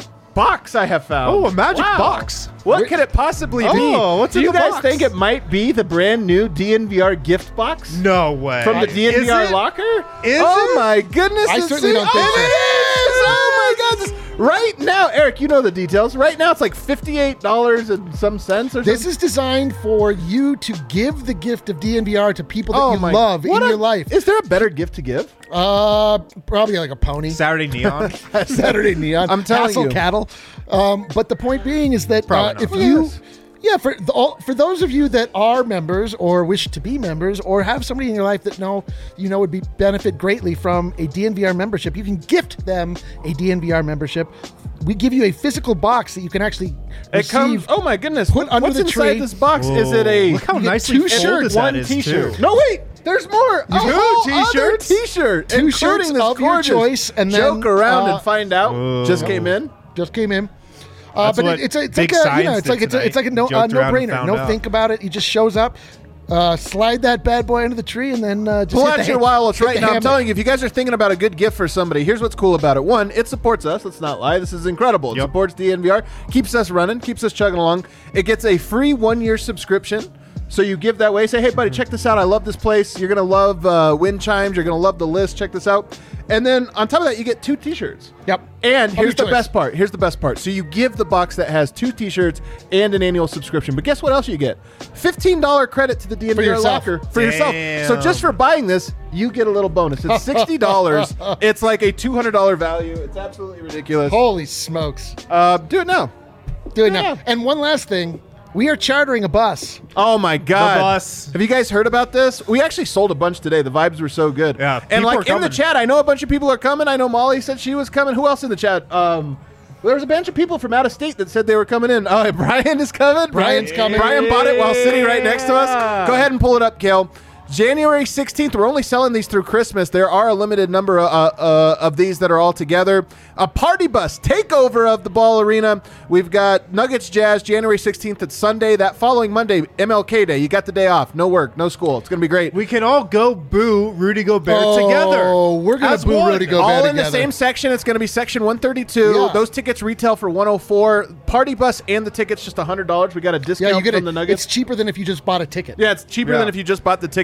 box I have found. Oh, a magic Wow. box. What could it possibly be? Oh, what's Do in you the guys box? think it might be the brand new D N V R gift box? No way. From the D N V R Is it? locker? Is oh it? my goodness. I it's certainly it- don't think oh, so. it is! Oh my god. This- right now, Eric, you know the details. Right now it's like fifty-eight dollars and some cents or This something. is designed for you to give the gift of D N V R to people that Oh you my- love in what a- your life. Is there a better gift to give? Uh, probably like a pony. Saturday Neon. Saturday Neon. I'm telling Hassle you. cattle. Um, but the point being is that uh, Probably if not. you, Yes. yeah, for the, all, for those of you that are members or wish to be members or have somebody in your life that know you know would be benefit greatly from a D N V R membership, you can gift them a D N V R membership. We give you a physical box that you can actually It receive. comes. Oh my goodness! Put What- under What's the inside tree. this box? Is it a Look how You get nicely two folded shirts, that one is, T-shirt? too. No, wait. There's more. Two Oh, other T-shirts? T-shirt, Two including shirts this of your gorgeous choice, and then, joke around uh, and find out. Whoa. Just came in. just came in. Uh, That's but what it, it's a, it's Big like a, you Science know, it's did like it's a, it's like a no, uh, tonight. Joked around and no-brainer. found No out. think about it. He just shows up, uh, slide that bad boy under the tree, and then uh, just Pull hit out the your ha- wallets hit right the now. I'm hammer. telling you, if you guys are thinking about a good gift for somebody, here's what's cool about it. One, it supports us. Let's not lie. This is incredible. It Yep. supports D N V R, keeps us running, keeps us chugging along. It gets a free one-year subscription. So you give that way. Say, hey, buddy, check this out. I love this place. You're going to love uh, wind chimes. You're going to love the list. Check this out. And then on top of that, you get two T-shirts. Yep. And Of here's your the choice. best part. Here's the best part. So you give the box that has two T-shirts and an annual subscription. But guess what else you get? fifteen dollars credit to the D N V R yourself. locker for yourself. So just for buying this, you get a little bonus. It's sixty dollars. It's like a two hundred dollars value. It's absolutely ridiculous. Holy smokes! Uh, do it now. Do it Yeah. now. And one last thing, we are chartering a bus. Oh my God! The bus. Have you guys heard about this? We actually sold a bunch today. The vibes were so good. Yeah, and people like are in the coming. chat, I know a bunch of people are coming. I know Molly said she was coming. Who else in the chat? Um, there was a bunch of people from out of state that said they were coming in. Oh, Brian is coming. Brian's coming. Brian bought it while sitting right next to us. Go ahead and pull it up, Kale. January sixteenth, we're only selling these through Christmas. There are a limited number uh, uh, of these that are all together. A party bus takeover of the Ball Arena. We've got Nuggets Jazz January sixteenth. It's Sunday. That following Monday, M L K Day. You got the day off. No work, no school. It's going to be great. We can all go boo Rudy Gobert Oh, together. we're gonna As boo one. Rudy Gobert. all in the together. same section. It's going to be section one thirty-two. Yeah. Those tickets retail for one oh four. Party bus and the tickets just one hundred dollars. We got a discount Yeah, you get from it. the Nuggets. It's cheaper than if you just bought a ticket. Yeah, it's cheaper Yeah. than if you just bought the ticket.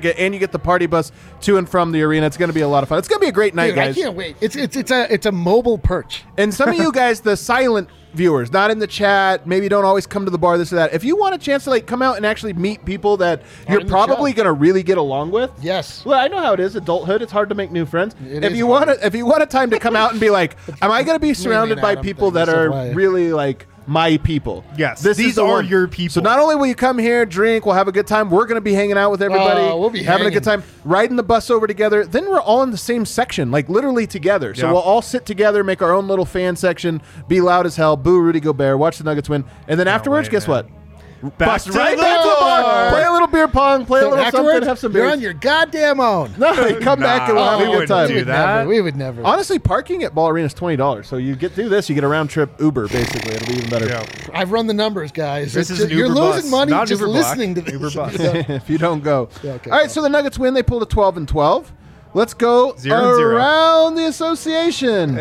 ticket, and you get the party bus to and from the arena. It's going to be a lot of fun. It's going to be a great night, Dude, guys. I can't wait. It's it's it's a it's a mobile perch. And some of you guys, the silent viewers, not in the chat, maybe don't always come to the bar, this or that. If you want a chance to like come out and actually meet people that you're in the probably chat. going to really get along with. Yes. Well, I know how it is, adulthood. It's hard to make new friends. It if is you hard. want, if you want a time to come out and be like, am I going to be surrounded by Adam people thing, that are that's why. really like my people? Yes, this these is the are one. your people. So not only will you come here, drink, we'll have a good time. We're going to be hanging out with everybody, Oh, we'll be having a hanging. good time, riding the bus over together. Then we're all in the same section, like literally together. So Yeah. we'll all sit together, make our own little fan section, be loud as hell, boo Rudy Gobert, watch the Nuggets win, and then afterwards, wait, guess man. what? Back Bust to right the back to the bar. bar. Play a little beer pong, play a little something, Afterwards, have some you're beers. on your goddamn own. No, come back and we'll Nah, have we a good wouldn't time. do we would that. never. We would never. Honestly, parking at Ball Arena is twenty dollars. So you get through this, you get a round trip Uber, basically. It'll be even better. Yeah. I've run the numbers, guys. This It's is an ju- you're Uber losing bus, money not just Uber Black, listening to this. Uber bus. If you don't go. Yeah, okay, All right, go. so the Nuggets win. They pulled a twelve and twelve. Let's go Zero and zero. around the association.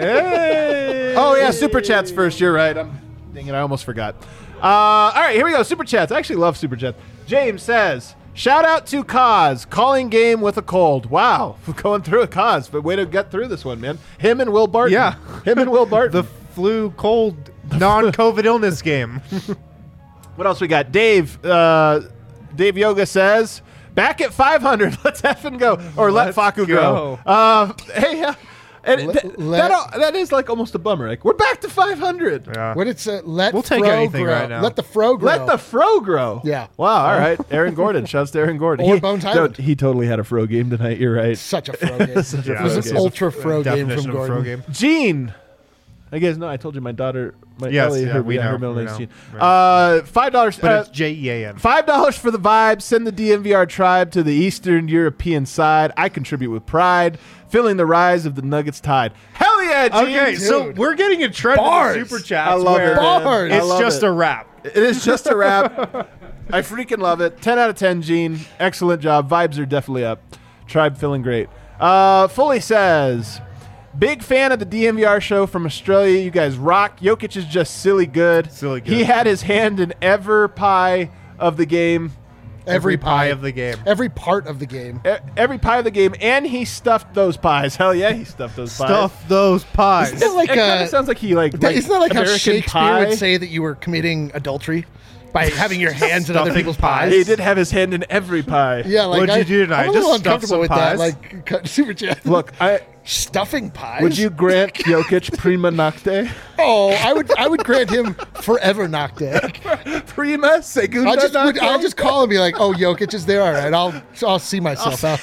Hey. Oh, yeah, Super Chats first. You're right. I'm, dang it, I almost forgot. Uh, all right, here we go. Super Chats. I actually love Super Chats. James says, shout out to Kaz, calling game with a cold. Wow, going through a Kaz, but way to get through this one, man. Him and Will Barton. Yeah. Him and Will Barton. The flu, cold, non-COVID illness game. What else we got? Dave, uh, Dave Yoga says, back at five hundred. Let's effing go. Or let Let's Faku go. go. Uh, hey, uh, and Let- th- let- that, that is like almost a bummer. Like, we're back to five hundred. Yeah. When it's uh, let We'll take fro anything grow. right now. Let the fro grow. Let the fro grow. Yeah. Wow. All right. Aaron Gordon. Shouts to Aaron Gordon. Or He- Bones no, Highland. he totally had a fro game tonight. You're right. Such a fro game. Such a Yeah, It was fro an game. ultra fro game Definition from of fro Gordon. game. Gene. I guess no. I told you my daughter. My Yes, Ellie, yeah, her, we yeah, her know, middle we name's know. Gene. Right. Uh, five dollars. But uh, it's J E A N. Five dollars for the vibe. Send the D M V R tribe to the Eastern European side. I contribute with pride, feeling the rise of the Nuggets tide. Hell yeah, Gene! Okay, so Dude. we're getting a trend Bars. in the super chats I love where it. man. Bars. I it's love just it. a wrap. It is just a wrap. I freaking love it. ten out of ten, Gene. Excellent job. Vibes are definitely up. Tribe feeling great. Uh, Fully says, big fan of the D M V R show from Australia. You guys rock. Jokic is just silly good. Silly good. He had his hand in every pie of the game. Every, pie of the game. Every part of the game. E- Every pie of the game, and he stuffed those pies. Hell yeah, he stuffed those pies. Stuff those pies. Isn't that like it kind uh, of sounds like he like. like isn't that like American how Shakespeare Pie. would say that you were committing adultery by having your hands in other Stuffing people's pies. pies? He did have his hand in every pie. Yeah, like What'd I, you do tonight? I'm a little Just stuff uncomfortable some with pies? that. Like cut- super chat. Look, I stuffing pies. would you grant Jokic prima nocte? Oh, I would. I would grant him forever nocte. Prima segunda I'll just. Would, nocte? I'll just call and be like, "Oh, Jokic is there. All right, I'll. I'll see myself out."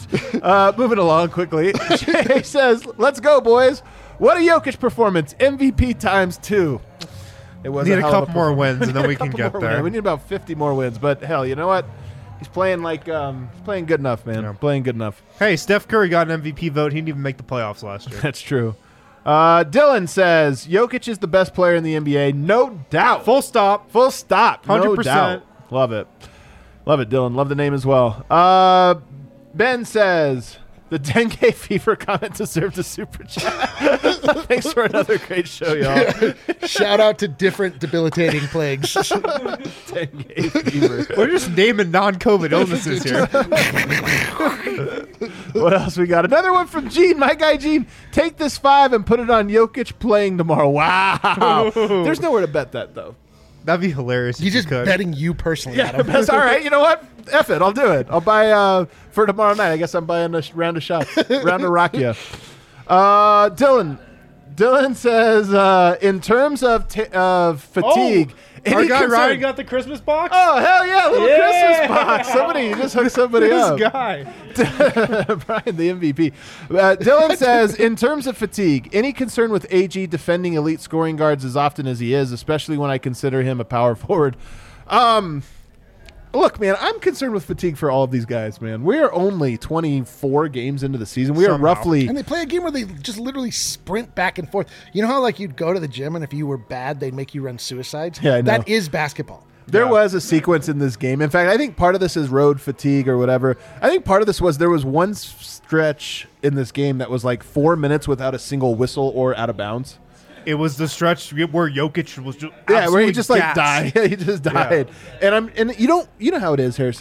Uh, moving along quickly. Jay says, "Let's go, boys! What a Jokic performance! M V P times two. It was Need a hell of couple more performance. wins and then we can Couple get more there. wins. We need about fifty more wins, but hell, you know what? He's playing like um, he's playing good enough, man. Yeah. Playing good enough. Hey, Steph Curry got an M V P vote. He didn't even make the playoffs last year. That's true. Uh, Dylan says Jokic is the best player in the N B A, no doubt. Full stop. Full stop. one hundred No percent. doubt. Love it. Love it, Dylan. Love the name as well. Uh, Ben says the dengue fever comment deserved a super chat. Thanks for another great show, y'all. Shout out to different debilitating plagues. Dengue fever. We're just naming non-COVID illnesses here. What else we got? Another one from Gene, my guy Gene. Take this five and put it on Jokic playing tomorrow. Wow. There's nowhere to bet that, though. That'd be hilarious. if He's you just could. betting you personally. Yeah, Adam. that's all right. You know what? F it. I'll do it. I'll buy uh, for tomorrow night. I guess I'm buying a sh- round of shots. round of Rakia. Uh, Dylan. Dylan says, uh, in terms of t- of fatigue. Our any guy concern- Ryan got the Christmas box. Oh, hell yeah. Little Yeah. Christmas box. Somebody you just hooked somebody this up. guy. Brian, the M V P. Uh, Dylan says, in terms of fatigue, any concern with A G defending elite scoring guards as often as he is, especially when I consider him a power forward? Um, look, man, I'm concerned with fatigue for all of these guys, man. We are only twenty-four games into the season. We are Somehow. roughly... And they play a game where they just literally sprint back and forth. You know how like you'd go to the gym and if you were bad, they'd make you run suicides? Yeah, I know. That is basketball. There Yeah. was a sequence in this game. In fact, I think part of this is road fatigue or whatever. I think part of this was there was one s- stretch in this game that was like four minutes without a single whistle or out of bounds. It was the stretch where Jokic was just Yeah, where he absolutely just like gassed. died. He just died. And I'm and you don't you know how it is, Harrison.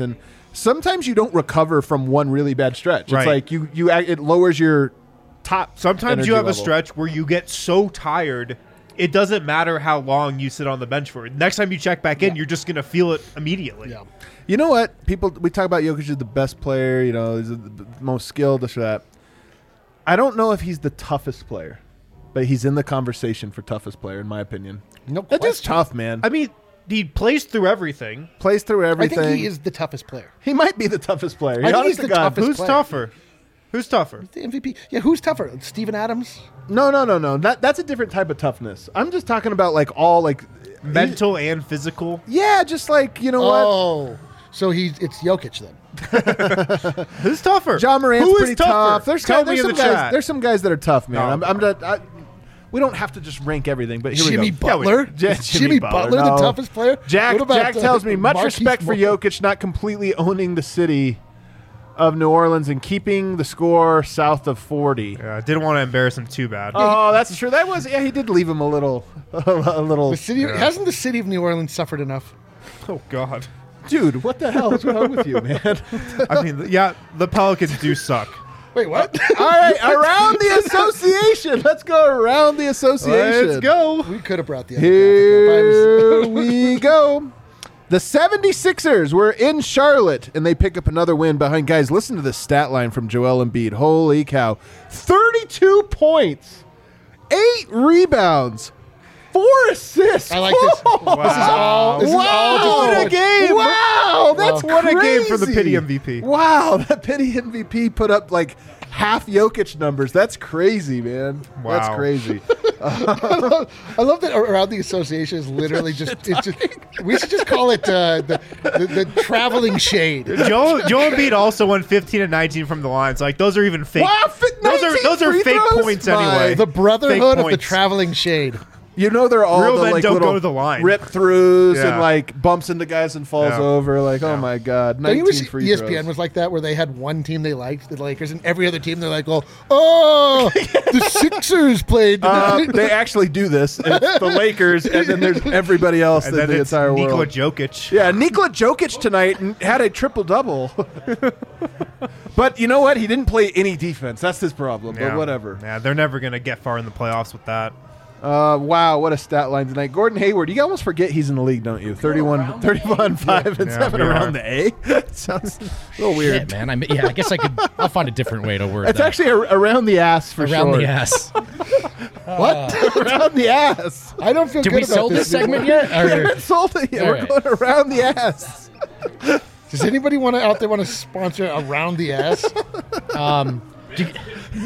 sometimes you don't recover from one really bad stretch. Right. It's like you you act- it lowers your top. Sometimes energy you have level. a stretch where you get so tired, it doesn't matter how long you sit on the bench for. Next time you check back in, Yeah. you're just going to feel it immediately. Yeah. You know what? People we talk about Jokic is the best player. You know, he's the, the most skilled. This or that. I don't know if he's the toughest player, but he's in the conversation for toughest player in my opinion. No That is question. tough, man. I mean, he plays through everything. Plays through I everything. think he is the toughest player. He might be the toughest player. I think Honest he's to the God. toughest Who's player. tougher? Who's tougher? The M V P. Yeah, who's tougher? Steven Adams? No, no, no, no. That that's a different type of toughness. I'm just talking about like all like Mental and physical. Yeah, just like you know what. Oh. So he's it's Jokic then. Who's tougher? John Morant's Who is pretty tougher? tough. There's, Tell guys, me there's in some the guys. chat. There's some guys that are tough, man. No. I'm, I'm not, I, we don't have to just rank everything, but here Jimmy we go. Butler? Yeah, Is Jimmy Jimmy Butler, Butler, no. the toughest player? Jack What about, Jack uh, tells me much Marquise respect for Morris? Jokic not completely owning the city of New Orleans and keeping the score south of forty. Yeah, I didn't want to embarrass him too bad. Oh, that's true. That was yeah. He did leave him a little, a little. The city hasn't the city of New Orleans suffered enough? Oh, God. Dude, what the hell is wrong with you, man? I mean, yeah, the Pelicans do suck. Wait, what? All right, around the association. Let's go around the association. Let's go. We could have brought the other graphic up. I Here was- we go. The seventy-sixers were in Charlotte, and they pick up another win behind. Guys, listen to the stat line from Joel Embiid. Holy cow. thirty-two points, eight rebounds, four assists. I like this. This is all. This wow. is all just What a game. Wow, that's What a game for the crazy. pity M V P. Wow, that pity M V P put up like half Jokic numbers. That's crazy, man. Wow. That's crazy. I love that around the association is literally just. It's just we should just call it uh, the, the the traveling shade. Joe Joe Embiid also won fifteen and nineteen from the line. So like those are even fake. Wow, fi- those are nineteen those are free fake throws? points My- anyway. The brotherhood of the points. traveling shade. You know they're all Real the men like don't little go to the line. rip throughs Yeah. and like bumps into guys and falls Yeah. over. Like, oh Yeah. my god, Don't you nineteen wish free E S P N throws. was like that, where they had one team they liked, the Lakers, and every other team they're like, "Oh, oh, the Sixers played Uh, tonight." they actually do this. It's the Lakers, and then there's everybody else and in then the it's entire Nikola world. Jokic. Yeah, Nikola Jokic tonight had a triple double. But you know what? He didn't play any defense. That's his problem. Yeah. But whatever. Yeah, they're never gonna get far in the playoffs with that. Uh, wow, what a stat line tonight. Gordon Hayward, you almost forget he's in the league, don't you? thirty-one, thirty-one, five, and Yeah, seven we around are. the A. Sounds a little weird. Shit, man. I mean, yeah, I guess I could. I'll find a different way to word It's that. actually a, around the ass for around sure. the ass. What? around the ass. I don't feel Did good we about sell this segment yet? Or- Sold it. Yeah, All we're right. going around the ass. Does anybody want to out there want to sponsor around the ass? um, do you-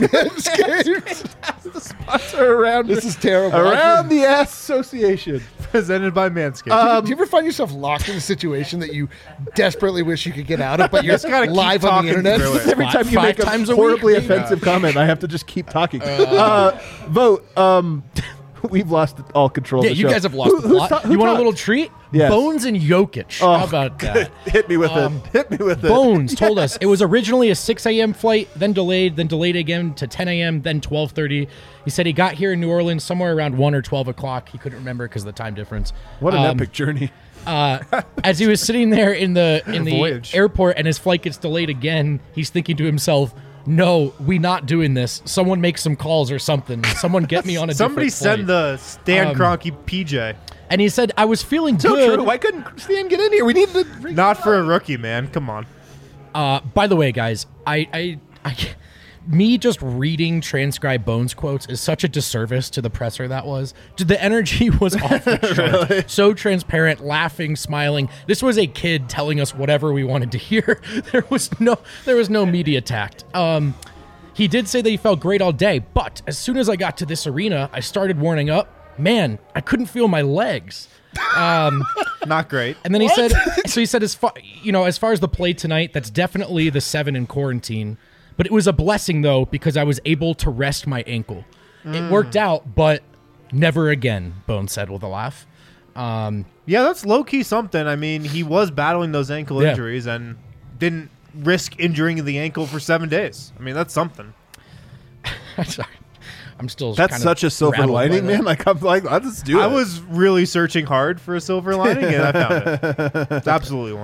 Sponsor around This is terrible. around the ass association. Presented by Manscaped. Um, Do you ever find yourself locked in a situation that you desperately wish you could get out of, but you're Just gotta keep live on talking the internet? through it. Every Five- time you five make a times a horribly week? offensive comment, I have to just keep talking. Uh, vote. Um, we've lost all control. yeah, of the you show. guys have lost Who- the who's plot. ta- who You want a talked? little treat? Yes. Bones and Jokic. Oh, How about that? Hit me with Um, it. Hit me with it. Bones told us it was originally a six a.m. flight, then delayed, then delayed again to ten a.m., then twelve thirty. He said he got here in New Orleans somewhere around one or twelve o'clock. He couldn't remember because of the time difference. What an Um, epic journey. uh, as he was sitting there in the in the Voyage. airport and his flight gets delayed again, he's thinking to himself, "No, we not doing this. Someone make some calls or something. Someone get me on a Somebody different flight." send the Stan Um, Kroenke P J. And he said, "I was feeling So good." true. Why couldn't Stan get in here? We need to. Not for a rookie, man. Come on. Uh, by the way, guys, I, I, I, me just reading transcribed Bones quotes is such a disservice to the presser that was. The energy was off the chart. So transparent, laughing, smiling. This was a kid telling us whatever we wanted to hear. There was no, there was no media tact. Um, he did say that he felt great all day, but as soon as I got to this arena, I started warming up. Man, I couldn't feel my legs. Not great. And then he said, so he said, as far, you know, as far as the play tonight, that's definitely the seven in quarantine. But it was a blessing, though, because I was able to rest my ankle. It worked out, but never again, Bones said with a laugh. Um, Yeah, that's low key something. I mean, he was battling those ankle Yeah. injuries and didn't risk injuring the ankle for seven days. I mean, that's something. sorry. I'm still That's kind of such a silver rattled by lining, that. man. Like I'm like, let's just do it. I was really searching hard for a silver lining, and I found it. It's absolutely one.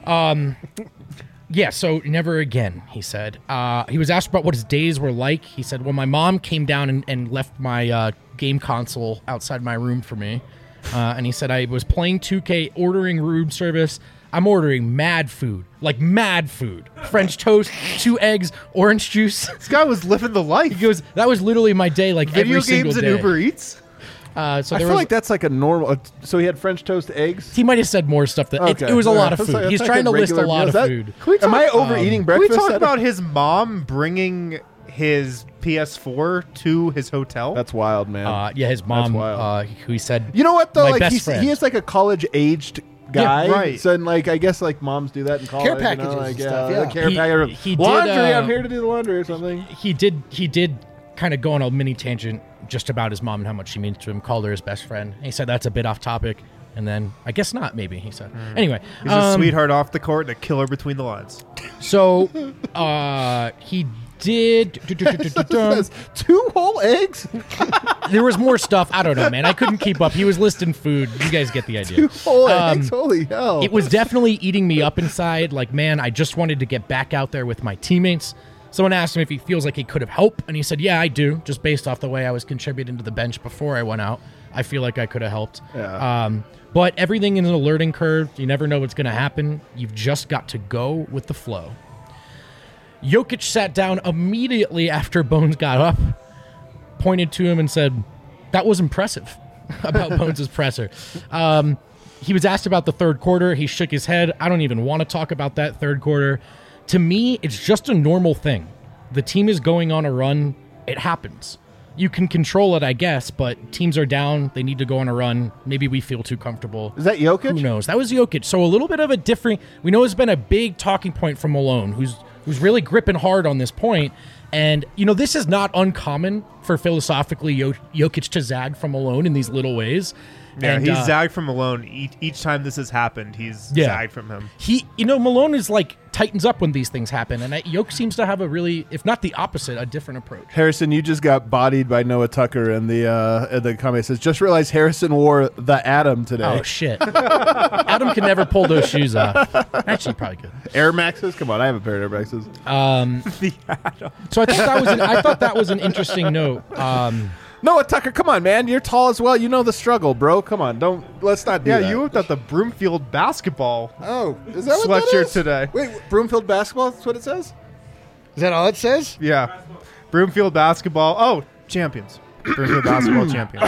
Um, yeah, so never again, he said. Uh, he was asked about what his days were like. He said, well, my mom came down and, and left my uh, game console outside my room for me. Uh, and he said, I was playing two K, ordering room service. I'm ordering mad food, like mad food. French toast, two eggs, orange juice. This guy was living the life. He goes, that was literally my day, like Video every single games and day. Uber Eats. Uh, so I there feel was, like that's like a normal. Uh, so he had French toast, eggs. he might have said more stuff. That it, Okay. it was a Yeah, lot of that's food. like- He's that's trying to like list a regular lot meal. of Is that- food. Can we Am I talk- overeating Can we breakfast? talk at- about his mom bringing his P S four to his hotel? That's wild, man. Uh, yeah, his mom, wild. uh, who he said, you know what though? my Like best he's, friend. he is like a college-aged guy, Yeah, right. So and, like I guess like moms do that in college. Care you packages know, like, and stuff, yeah. like care He- package. he did, laundry. uh, I'm here to do the laundry or something. he did he did kind of go on a mini tangent just about his mom and how much she means to him, called her his best friend. And he said that's a bit off topic, and then I guess not, maybe, he said. Anyway. He's a um, sweetheart off the court and a killer between the lines. So uh, he did. Says, two whole eggs. There was more stuff. I don't know, man. I couldn't keep up. He was listing food. You guys get the idea. Two whole Um, eggs. Holy hell! It was definitely eating me up inside. Like, man, I just wanted to get back out there with my teammates. Someone asked him if he feels like he could have helped, and he said, yeah, I do, just based off the way I was contributing to the bench before I went out. I feel like I could have helped. Yeah. Um, but everything is an learning curve. You never know what's going to happen. You've just got to go with the flow. Jokic sat down immediately after Bones got up, pointed to him and said, that was impressive about Bones' presser. Um, he was asked about the third quarter. He shook his head. I don't even want to talk about that third quarter. To me, it's just a normal thing. The team is going on a run. It happens. You can control it, I guess, but teams are down. They need to go on a run. Maybe we feel too comfortable. Is that Jokic? Who knows? That was Jokic. So a little bit of a different. We know it's been a big talking point from Malone, who's who's really gripping hard on this point. And you know, this is not uncommon for philosophically Jo- Jokic to zag from Malone in these little ways. Yeah, And, he's uh, zagged from Malone each, each time this has happened. He's Yeah. zagged from him. He, you know, Malone is like tightens up when these things happen, and Jokic seems to have a really, if not the opposite, a different approach. Harrison, you just got bodied by Noah Tucker in the uh, in the comment. It says, just realized Harrison wore the Atom today. Oh shit! Adam can never pull those shoes off. Actually, probably could. Air Maxes? Come on, I have a pair of Air Maxes. Um, so I thought that was an, I thought that was an interesting note. Um, Noah Tucker, come on, man. You're tall as well. You know the struggle, bro. Come on. Don't let's not do Yeah, that. you whipped out the Broomfield basketball Oh, is that what that sweatshirt is? today. Wait, Broomfield basketball? That's what it says? Is that all it says? Yeah. Broomfield basketball. Oh, champions. Broomfield basketball champions.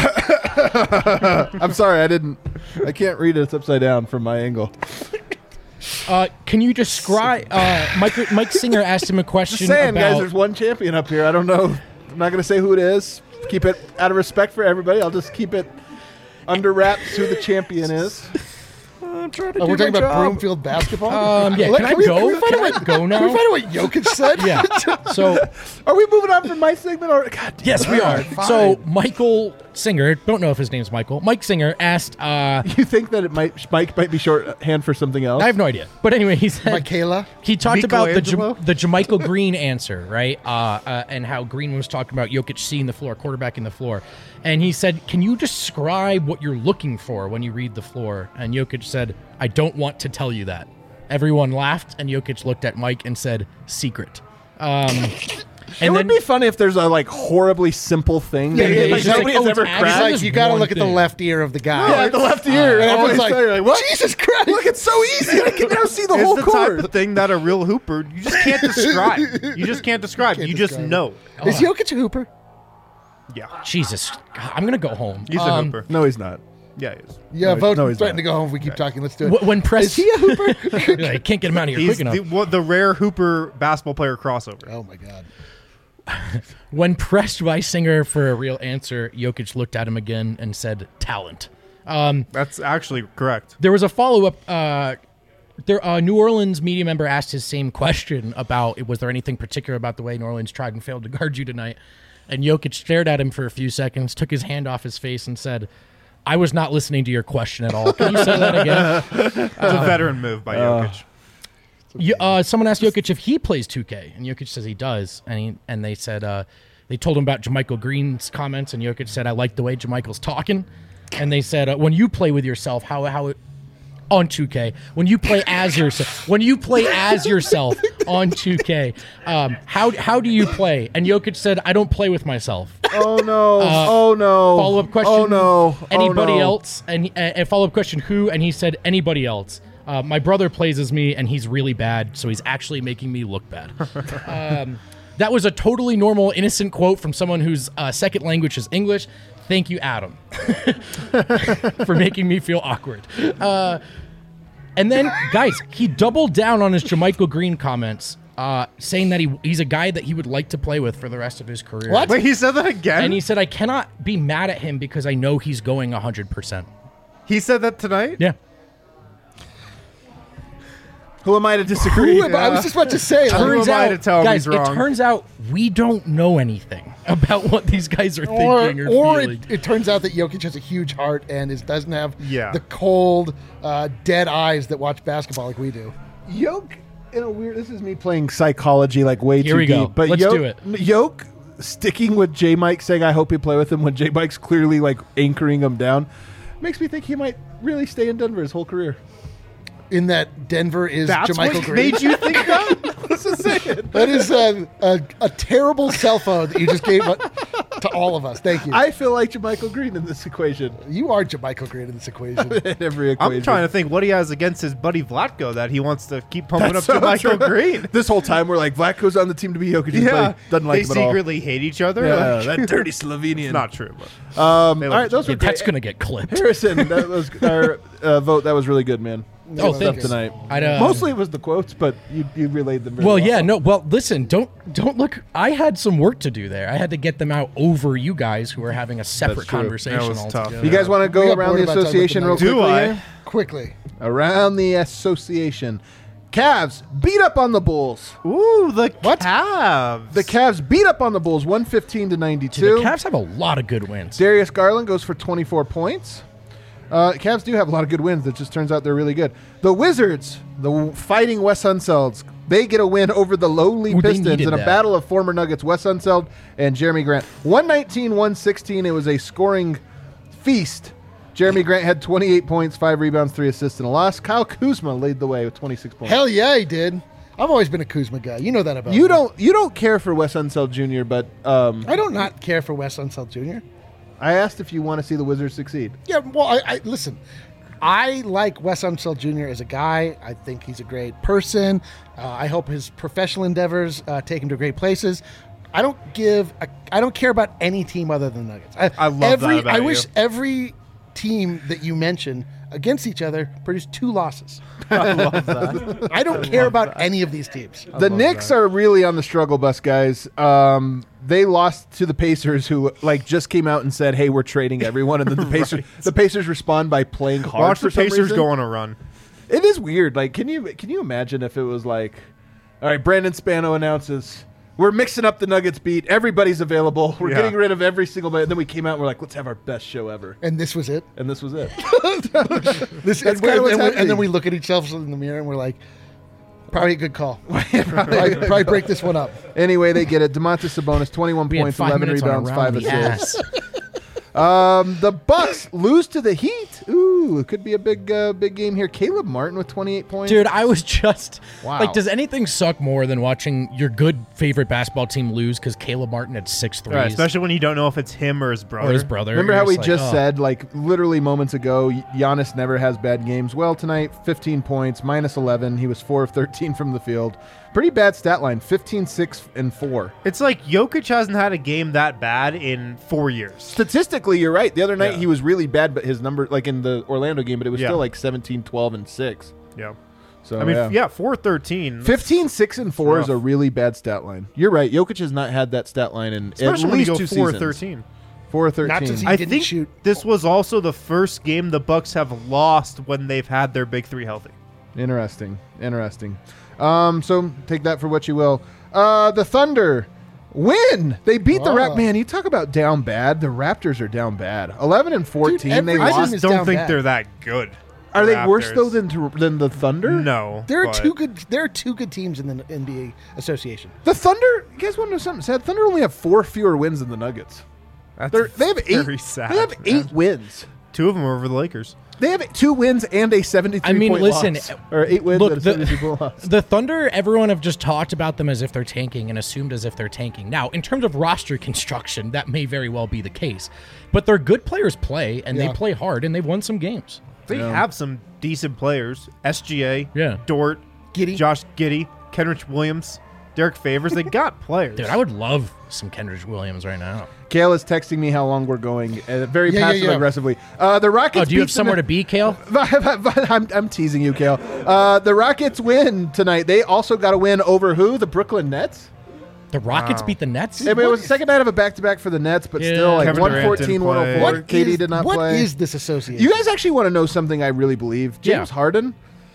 I'm sorry, I didn't. I can't read it. It's upside down from my angle. uh, can you describe? Uh, Mike Mike Singer asked him a question Just saying, about. guys. There's one champion up here. I don't know. I'm not going to say who it is. Keep it out of respect for everybody. I'll just keep it under wraps who the champion is. I'm trying to Oh, do we're talking my about job. Broomfield basketball. um, yeah, Let- can I we- go? Can we find Can out I what, go now? Can we find out what Jokic said? Yeah. So Are we moving on from my segment? Or God damn yes, it. we All are. right, fine. So Michael Singer, don't know if his name's Michael. Mike Singer asked. Uh, You think that it might Mike might be shorthand for something else? I have no idea, but anyway, he said Michaela. he talked about the Michelangelo? Jam- the Jermichael Green answer, right? Uh, uh, and how Green was talking about Jokic seeing the floor, quarterbacking the floor, and he said, "Can you describe what you're looking for when you read the floor?" And Jokic said, "I don't want to tell you that." Everyone laughed, and Jokic looked at Mike and said, "Secret." Um, It and would then be funny if there's a like horribly simple thing Yeah, that yeah, like, he's just nobody like, has oh, ever it's He's cracked. like, Just you got to one look at the thing. left ear of the guy. Yeah, the left ear. and Always everyone's like, say, like, what? Jesus Christ. Look, it's so easy. I can now see the It's whole the court. type of thing that a real hooper, you just can't describe. You just can't describe. Can't you just describe it. know. Is Jokic a hooper? Yeah. Jesus, God, I'm gonna go home. He's a Um, hooper. No, he's not. Yeah, he is. Yeah, No, vote. no, he's threaten not. to go home if we keep talking. Let's do it. wh- When press, Is he a hooper? I can't get him out of here He's quick enough. the, what, the rare hooper basketball player crossover. Oh my God. When pressed by Singer for a real answer, Jokic looked at him again and said, "Talent." Um, That's actually correct. there was a follow up. Uh, there, a New Orleans media member asked his same question about was there anything particular about the way New Orleans tried and failed to guard you tonight? And Jokic stared at him for a few seconds, took his hand off his face, and said, "I was not listening to your question at all." Can you say that again? It's a veteran move by Jokic. You, uh, someone asked Jokic if he plays two K, and Jokic says he does. And he, and they said uh, they told him about Jermichael Green's comments, and Jokic said, "I like the way Jermichael's talking." And they said, uh, "When you play with yourself, how how it, on two K, when you play as yourself, when you play as yourself on two K, um, how how do you play? And Jokic said, I don't play with myself. Oh no! Uh, oh no! Follow up question. Oh no! Anybody oh, no. else? And he, uh, follow up question. Who? And he said anybody else. Uh, my brother plays as me, and he's really bad, so he's actually making me look bad. um, that was a totally normal, innocent quote from someone whose uh, second language is English. Thank you, Adam, for making me feel awkward. Uh, and then, guys, he doubled down on his JaMychal Green comments, uh, saying that he he's a guy that he would like to play with for the rest of his career. What? Wait, he said that again? And he said, I cannot be mad at him because I know he's going one hundred percent. He said that tonight? Yeah. Who am I to disagree? Who am I? I was just about to say. like, Turns Turns am I out, to tell him guys, he's wrong? it turns out we don't know anything about what these guys are or thinking or, or feeling. it, it turns out that Jokic has a huge heart and is, doesn't have Yeah. the cold, uh, dead eyes that watch basketball like we do. Yoke, in a weird. This is me playing psychology like way Here too we deep. go. But Let's Yoke, do it. Yoke sticking with J Mike, saying I hope you play with him when J Mike's clearly like anchoring him down, makes me think he might really stay in Denver his whole career. In that Denver is That's JaMychal what Green. made you think that? Let's just say it. That is a, a, a terrible cell phone that you just gave uh, to all of us. Thank you. I feel like JaMychal Green in this equation. you are JaMychal Green in this equation. In every equation. I'm trying to think what he has against his buddy Vlatko that he wants to keep pumping That's up so to Michael true. Green. This whole time we're like, Vlatko's on the team to be Jokic. Yeah, doesn't like they him at all. secretly hate each other. Yeah, Like, that dirty Slovenian. it's not true. But Um, They all love right, each those Yeah, were great. that's going to get clipped. Harrison, that was our uh, vote. That was really good, man. Oh, Good stuff thanks. tonight. I'd, uh, Mostly it was the quotes, but you you relayed them. Very Well, well, yeah, no. Well, listen, don't don't look. I had some work to do there. I had to get them out over you guys who were having a separate true. conversation. That was tough. altogether. You guys want to We go got around bored the about talking about association the real Nuggets. Do quickly? I? here? Quickly. Around the association. Cavs beat up on the Bulls. Ooh, the What? Cavs. The Cavs beat up on the Bulls one fifteen to Dude, ninety-two. the Cavs have a lot of good wins. Darius Garland goes for twenty-four points. Uh, Cavs do have a lot of good wins. It just turns out they're really good. The Wizards, the fighting Wes Unselds, they get a win over the lowly Ooh, they Pistons needed in a that. battle of former Nuggets, Wes Unseld and Jeremy Grant. one nineteen to one sixteen. It was a scoring feast. Jeremy Grant had twenty-eight points, five rebounds, three assists, and a loss. Kyle Kuzma laid the way with twenty-six points. Hell yeah, he did. I've always been a Kuzma guy. You know that about you me. don't you don't care for Wes Unseld Junior, but um, I don't not care for Wes Unseld Junior I asked if you want to see the Wizards succeed. Yeah, well, I, I listen. I like Wes Unseld Junior as a guy. I think he's a great person. Uh, I hope his professional endeavors uh, take him to great places. I don't give. A, I don't care about any team other than the Nuggets. I, I love that every, about I you. wish every team that you mention against each other produced two losses. I love that. I don't care about any of these teams. The Knicks are really on the struggle bus, guys. Um, they lost to the Pacers, who like just came out and said, "Hey, we're trading everyone," and then the Pacers, the Pacers respond by playing hard. Watch for the some Pacers reason. go on a run. It is weird. Like, can you can you imagine if it was like, all right, Brandon Spano announces we're mixing up the Nuggets beat. Everybody's available. We're Yeah. getting rid of every single. And then we came out and we're like, let's have our best show ever. And this was it. And this was it. This, That's and, kinda and- what's and we- happening. and then we look at ourselves in the mirror and we're like, probably a good call. probably, probably break this one up. Anyway, they get it. Demontis Sabonis, twenty-one We had points, five eleven minutes on a rebounds, round five in the assists. ass. Um, the Bucks lose to the Heat. Ooh, it could be a big, uh, big game here. Caleb Martin with twenty-eight points. Dude, I was just Wow. like, does anything suck more than watching your good favorite basketball team lose because Caleb Martin had six threes? Right, especially when you don't know if it's him or his brother. or his brother. Remember You're how we like, just oh. said, like literally moments ago, Giannis never has bad games. Well, tonight, fifteen points, minus eleven. He was four of thirteen from the field. Pretty bad stat line, fifteen, six, and four. It's like Jokic hasn't had a game that bad in four years. Statistically, you're right. The other night Yeah. he was really bad, but his number, like in the Orlando game, but it was Yeah. still like seventeen, twelve, and six. Yeah. So I mean, yeah. yeah, four thirteen. fifteen, six, and four rough. is a really bad stat line. You're right. Jokic has not had that stat line in Especially at when you least go two four seasons. thirteen. four thirteen. Not since he I didn't think shoot. this was also the first game the Bucks have lost when they've had their big three healthy. Interesting. Interesting. Um, so take that for what you will. Uh, the Thunder win. They beat the Rap. Wow. Man, you talk about down bad. The Raptors are down bad. Eleven and fourteen. every they I team lost. just is don't down think bad. they're that good. Are the they worse Raptors. though than to, than the Thunder? No. There are but- two good. There are two good teams in the N B A association. The Thunder. You guys want to know something sad? Thunder only have four fewer wins than the Nuggets. That's They're, they have eight. very sad. they have man. eight wins. Two of them are over the Lakers. They have two wins and a seventy-three I mean, point listen, loss. Or eight wins look, and a the- seventy-three point loss. The Thunder, everyone have just talked about them as if they're tanking and assumed as if they're tanking. Now, in terms of roster construction, that may very well be the case. But their good players play, and Yeah. they play hard, and they've won some games. They Yeah. have some decent players. S G A, Yeah. Dort, Giddey. Josh Giddey, Kenrich Williams, Derek Favors. They got players. Dude, I would love some Kendrick Williams right now. Kale is texting me how long we're going, uh, very Yeah, yeah, passive yeah. aggressively. Uh, the Rockets. Oh, do you have beat the somewhere Ne- to be, Kale? I'm, I'm teasing you, Kale. Uh, the Rockets win tonight. They also got a win over who? The Brooklyn Nets. The Rockets Wow. beat the Nets? I mean, it was the second night of a back-to-back for the Nets, but Yeah. still, like Kevin one Durant fourteen, didn't one oh four. What Katie is- did not what play. is this association? You guys actually want to know something I really believe? James Yeah. Harden,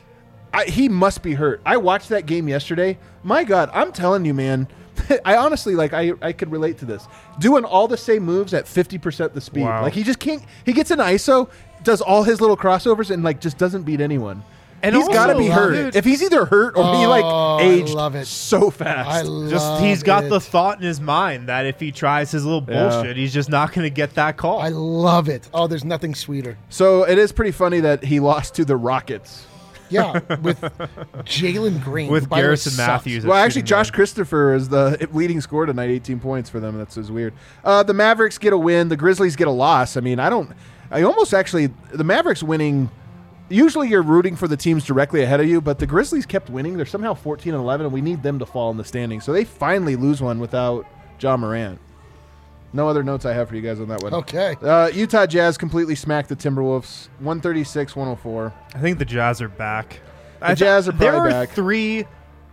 I, he must be hurt. I watched that game yesterday. My God, I'm telling you, man. I honestly, like, I, I could relate to this. Doing all the same moves at fifty percent the speed. Wow. Like, he just can't. He gets an I S O, does all his little crossovers, and, like, just doesn't beat anyone. And he's got to also, be love hurt. it. If he's either hurt or he, Oh, like, I aged love it. so fast. I love Just he's got it. the thought in his mind that if he tries his little Yeah. bullshit, he's just not going to get that call. I love it. Oh, there's nothing sweeter. So it is pretty funny that he lost to the Rockets. Yeah, with Jalen Green. With who, by the way, Garrison sucks. Matthews. Well, actually, shooting Josh guard. Christopher is the leading scorer tonight, eighteen points for them. That's just weird. Uh, the Mavericks get a win. The Grizzlies get a loss. I mean, I don't. I almost actually the Mavericks winning. Usually, you're rooting for the teams directly ahead of you, but the Grizzlies kept winning. They're somehow fourteen and eleven, and we need them to fall in the standings. So they finally lose one without John Morant. No other notes I have for you guys on that one. Okay. Uh, Utah Jazz completely smacked the Timberwolves, one thirty-six one oh four. I think the Jazz are back. The I th- Jazz are There probably are back. three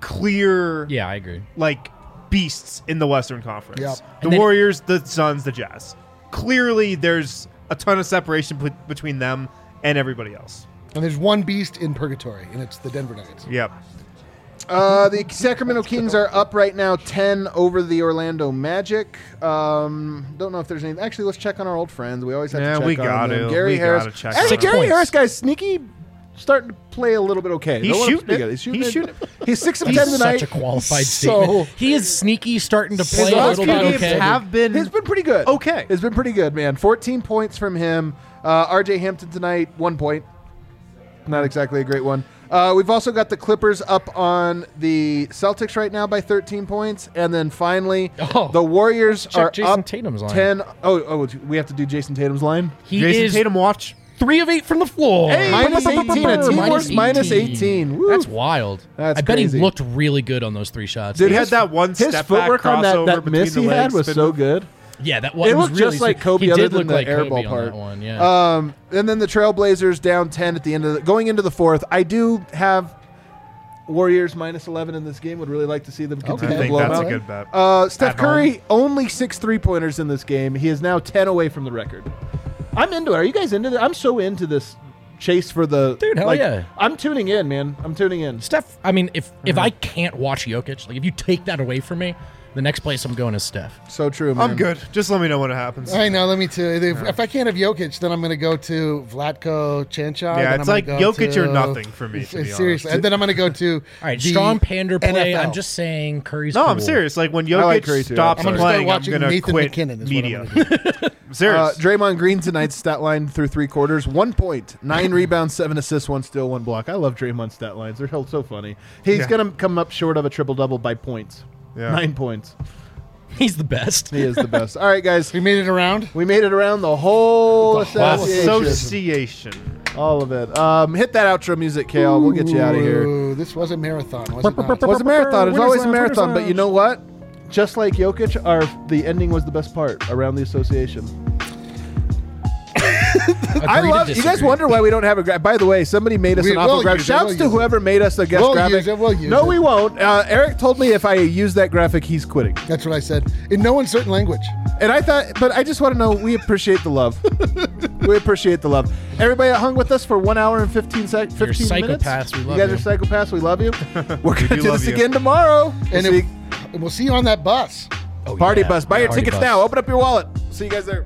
clear, Yeah, I agree. like, beasts in the Western Conference. Yep. The And then- Warriors, the Suns, the Jazz. Clearly, there's a ton of separation p- between them and everybody else. And there's one beast in purgatory, and it's the Denver Nuggets. Yep. Uh, the Sacramento Kings are up right now, ten over the Orlando Magic. Um, don't know if there's anything. Actually, let's check on our old friends. We always have Yeah, to check we on gotta. them. Gary We Harris. gotta check Actually, on Six Gary points. Harris, guys, sneaky, starting to play a little bit okay. He's Don't wanna shooting forget it. He's shooting. He's it. shooting He's six of He's ten tonight. such a qualified So- statement. He is sneaky, starting to play His a last little few bit games okay. have been It's been pretty good. okay. It's been pretty good, man. fourteen points from him. Uh, R J Hampton tonight, one point. Not exactly a great one. Uh, we've also got the Clippers up on the Celtics right now by thirteen points, and then finally Oh. the Warriors Check are Jason up Tatum's line. ten. Oh, oh, we have to do Jason Tatum's line. He Jason is Tatum watch. three of eight from the floor. Hey, minus Brr, brr, brr, eighteen. A brr, team minus works minus eighteen. Woo. That's wild. That's I bet crazy. he looked really good on those three shots. Dude, He his- had that one His step footwork back on that, crossover that between miss the he had legs, was spin so move. good. yeah, that one It was looked really just like sick. Kobe He other did than look the like air Kobe ball on part. that one. Yeah. Um, and then the Trailblazers down ten at the end of the going into the fourth. I do have Warriors minus eleven in this game. Would really like to see them continue I to think blow them that's a out. good bet. Uh, Steph At Curry home. only six three pointers in this game. He is now ten away from the record. I'm into it. Are you guys into it? I'm so into this chase for the Dude, hell like, yeah. I'm tuning in, man. I'm tuning in. Steph, I mean, if if Uh-huh. I can't watch Jokic, like if you take that away from me, the next place I'm going is Steph. So true, man. I'm good. Just let me know when it happens. I know. Let me tell you. If, if I can't have Jokic, then I'm going to go to Vlatko Chanchar. Yeah, then it's I'm like gonna go Jokic to- or nothing for me, to be Seriously, honest. and then I'm going to go to. All right, the strong pander play. N F L. I'm just saying Curry's No, cool. I'm serious. Like when I like Jokic Curry, too. stops I'm gonna start playing, I'm watching gonna Nathan quit McKinnon is what I'm media. gonna I'm serious. Uh, Draymond Green tonight's stat line through three quarters: one point, nine rebounds, seven assists, one steal, one block. I love Draymond's stat lines; they're held so funny. He's Yeah. gonna come up short of a triple double by points. Yeah. Nine points. He's the best. He is the best. All right, guys, We made it around. we made it around the whole The whole association. Association. All of it. Um, hit that outro music, Kale. We'll get you out of here. Ooh, this was a marathon, was it not? It was a marathon. It was Winners always a lounge, marathon. winners But you know what? Just like Jokic, our the ending was the best part around the association. I Agree to love. You guys disagree. wonder why we don't have a graphic. By the way, somebody made us We an will awful graphic. use it, Shouts we'll to use it. whoever made us a guest We'll graphic. use it, we'll use no, it. we won't. Uh, Eric told me if I use that graphic, he's quitting. That's what I said. In no uncertain language. And I thought, but I just want to know, we appreciate the love. we appreciate the love. Everybody that hung with us for one hour and fifteen seconds, You're fifteen minutes. psychopaths. We love you guys you. are psychopaths. We love you. We're gonna do do love this you. again tomorrow. And, We'll if, see- and we'll see you on that bus. Oh, Party yeah. bus. Buy your Party tickets bus. now. Open up your wallet. See you guys there.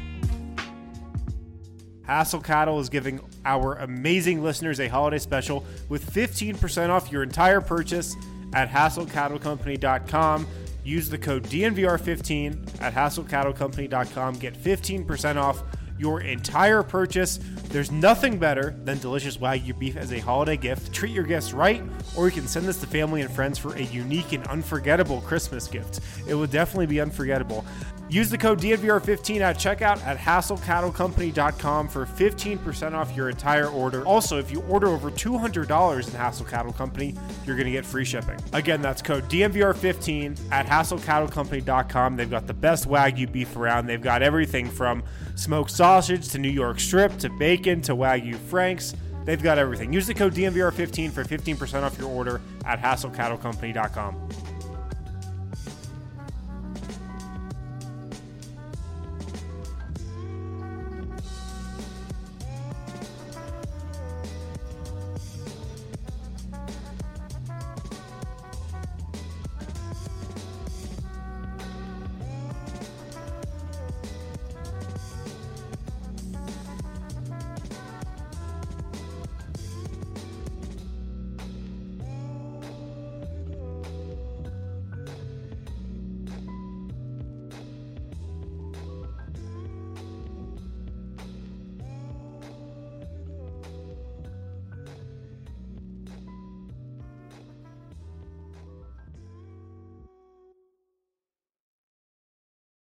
Hassel Cattle is giving our amazing listeners a holiday special with fifteen percent off your entire purchase at hassel cattle company dot com. Use the code D N V R fifteen at hassel cattle company dot com. Get fifteen percent off your entire purchase. There's nothing better than delicious Wagyu beef as a holiday gift. Treat your guests right, or you can send this to family and friends for a unique and unforgettable Christmas gift. It will definitely be unforgettable. Use the code D N V R fifteen at checkout at hassel cattle company dot com for fifteen percent off your entire order. Also, if you order over two hundred dollars in Hassel Cattle Company, you're going to get free shipping. Again, that's code D N V R fifteen at hassel cattle company dot com. They've got the best Wagyu beef around. They've got everything from smoked sausage to New York strip to bacon to Wagyu Franks. They've got everything. Use the code D N V R fifteen for fifteen percent off your order at hassel cattle company dot com.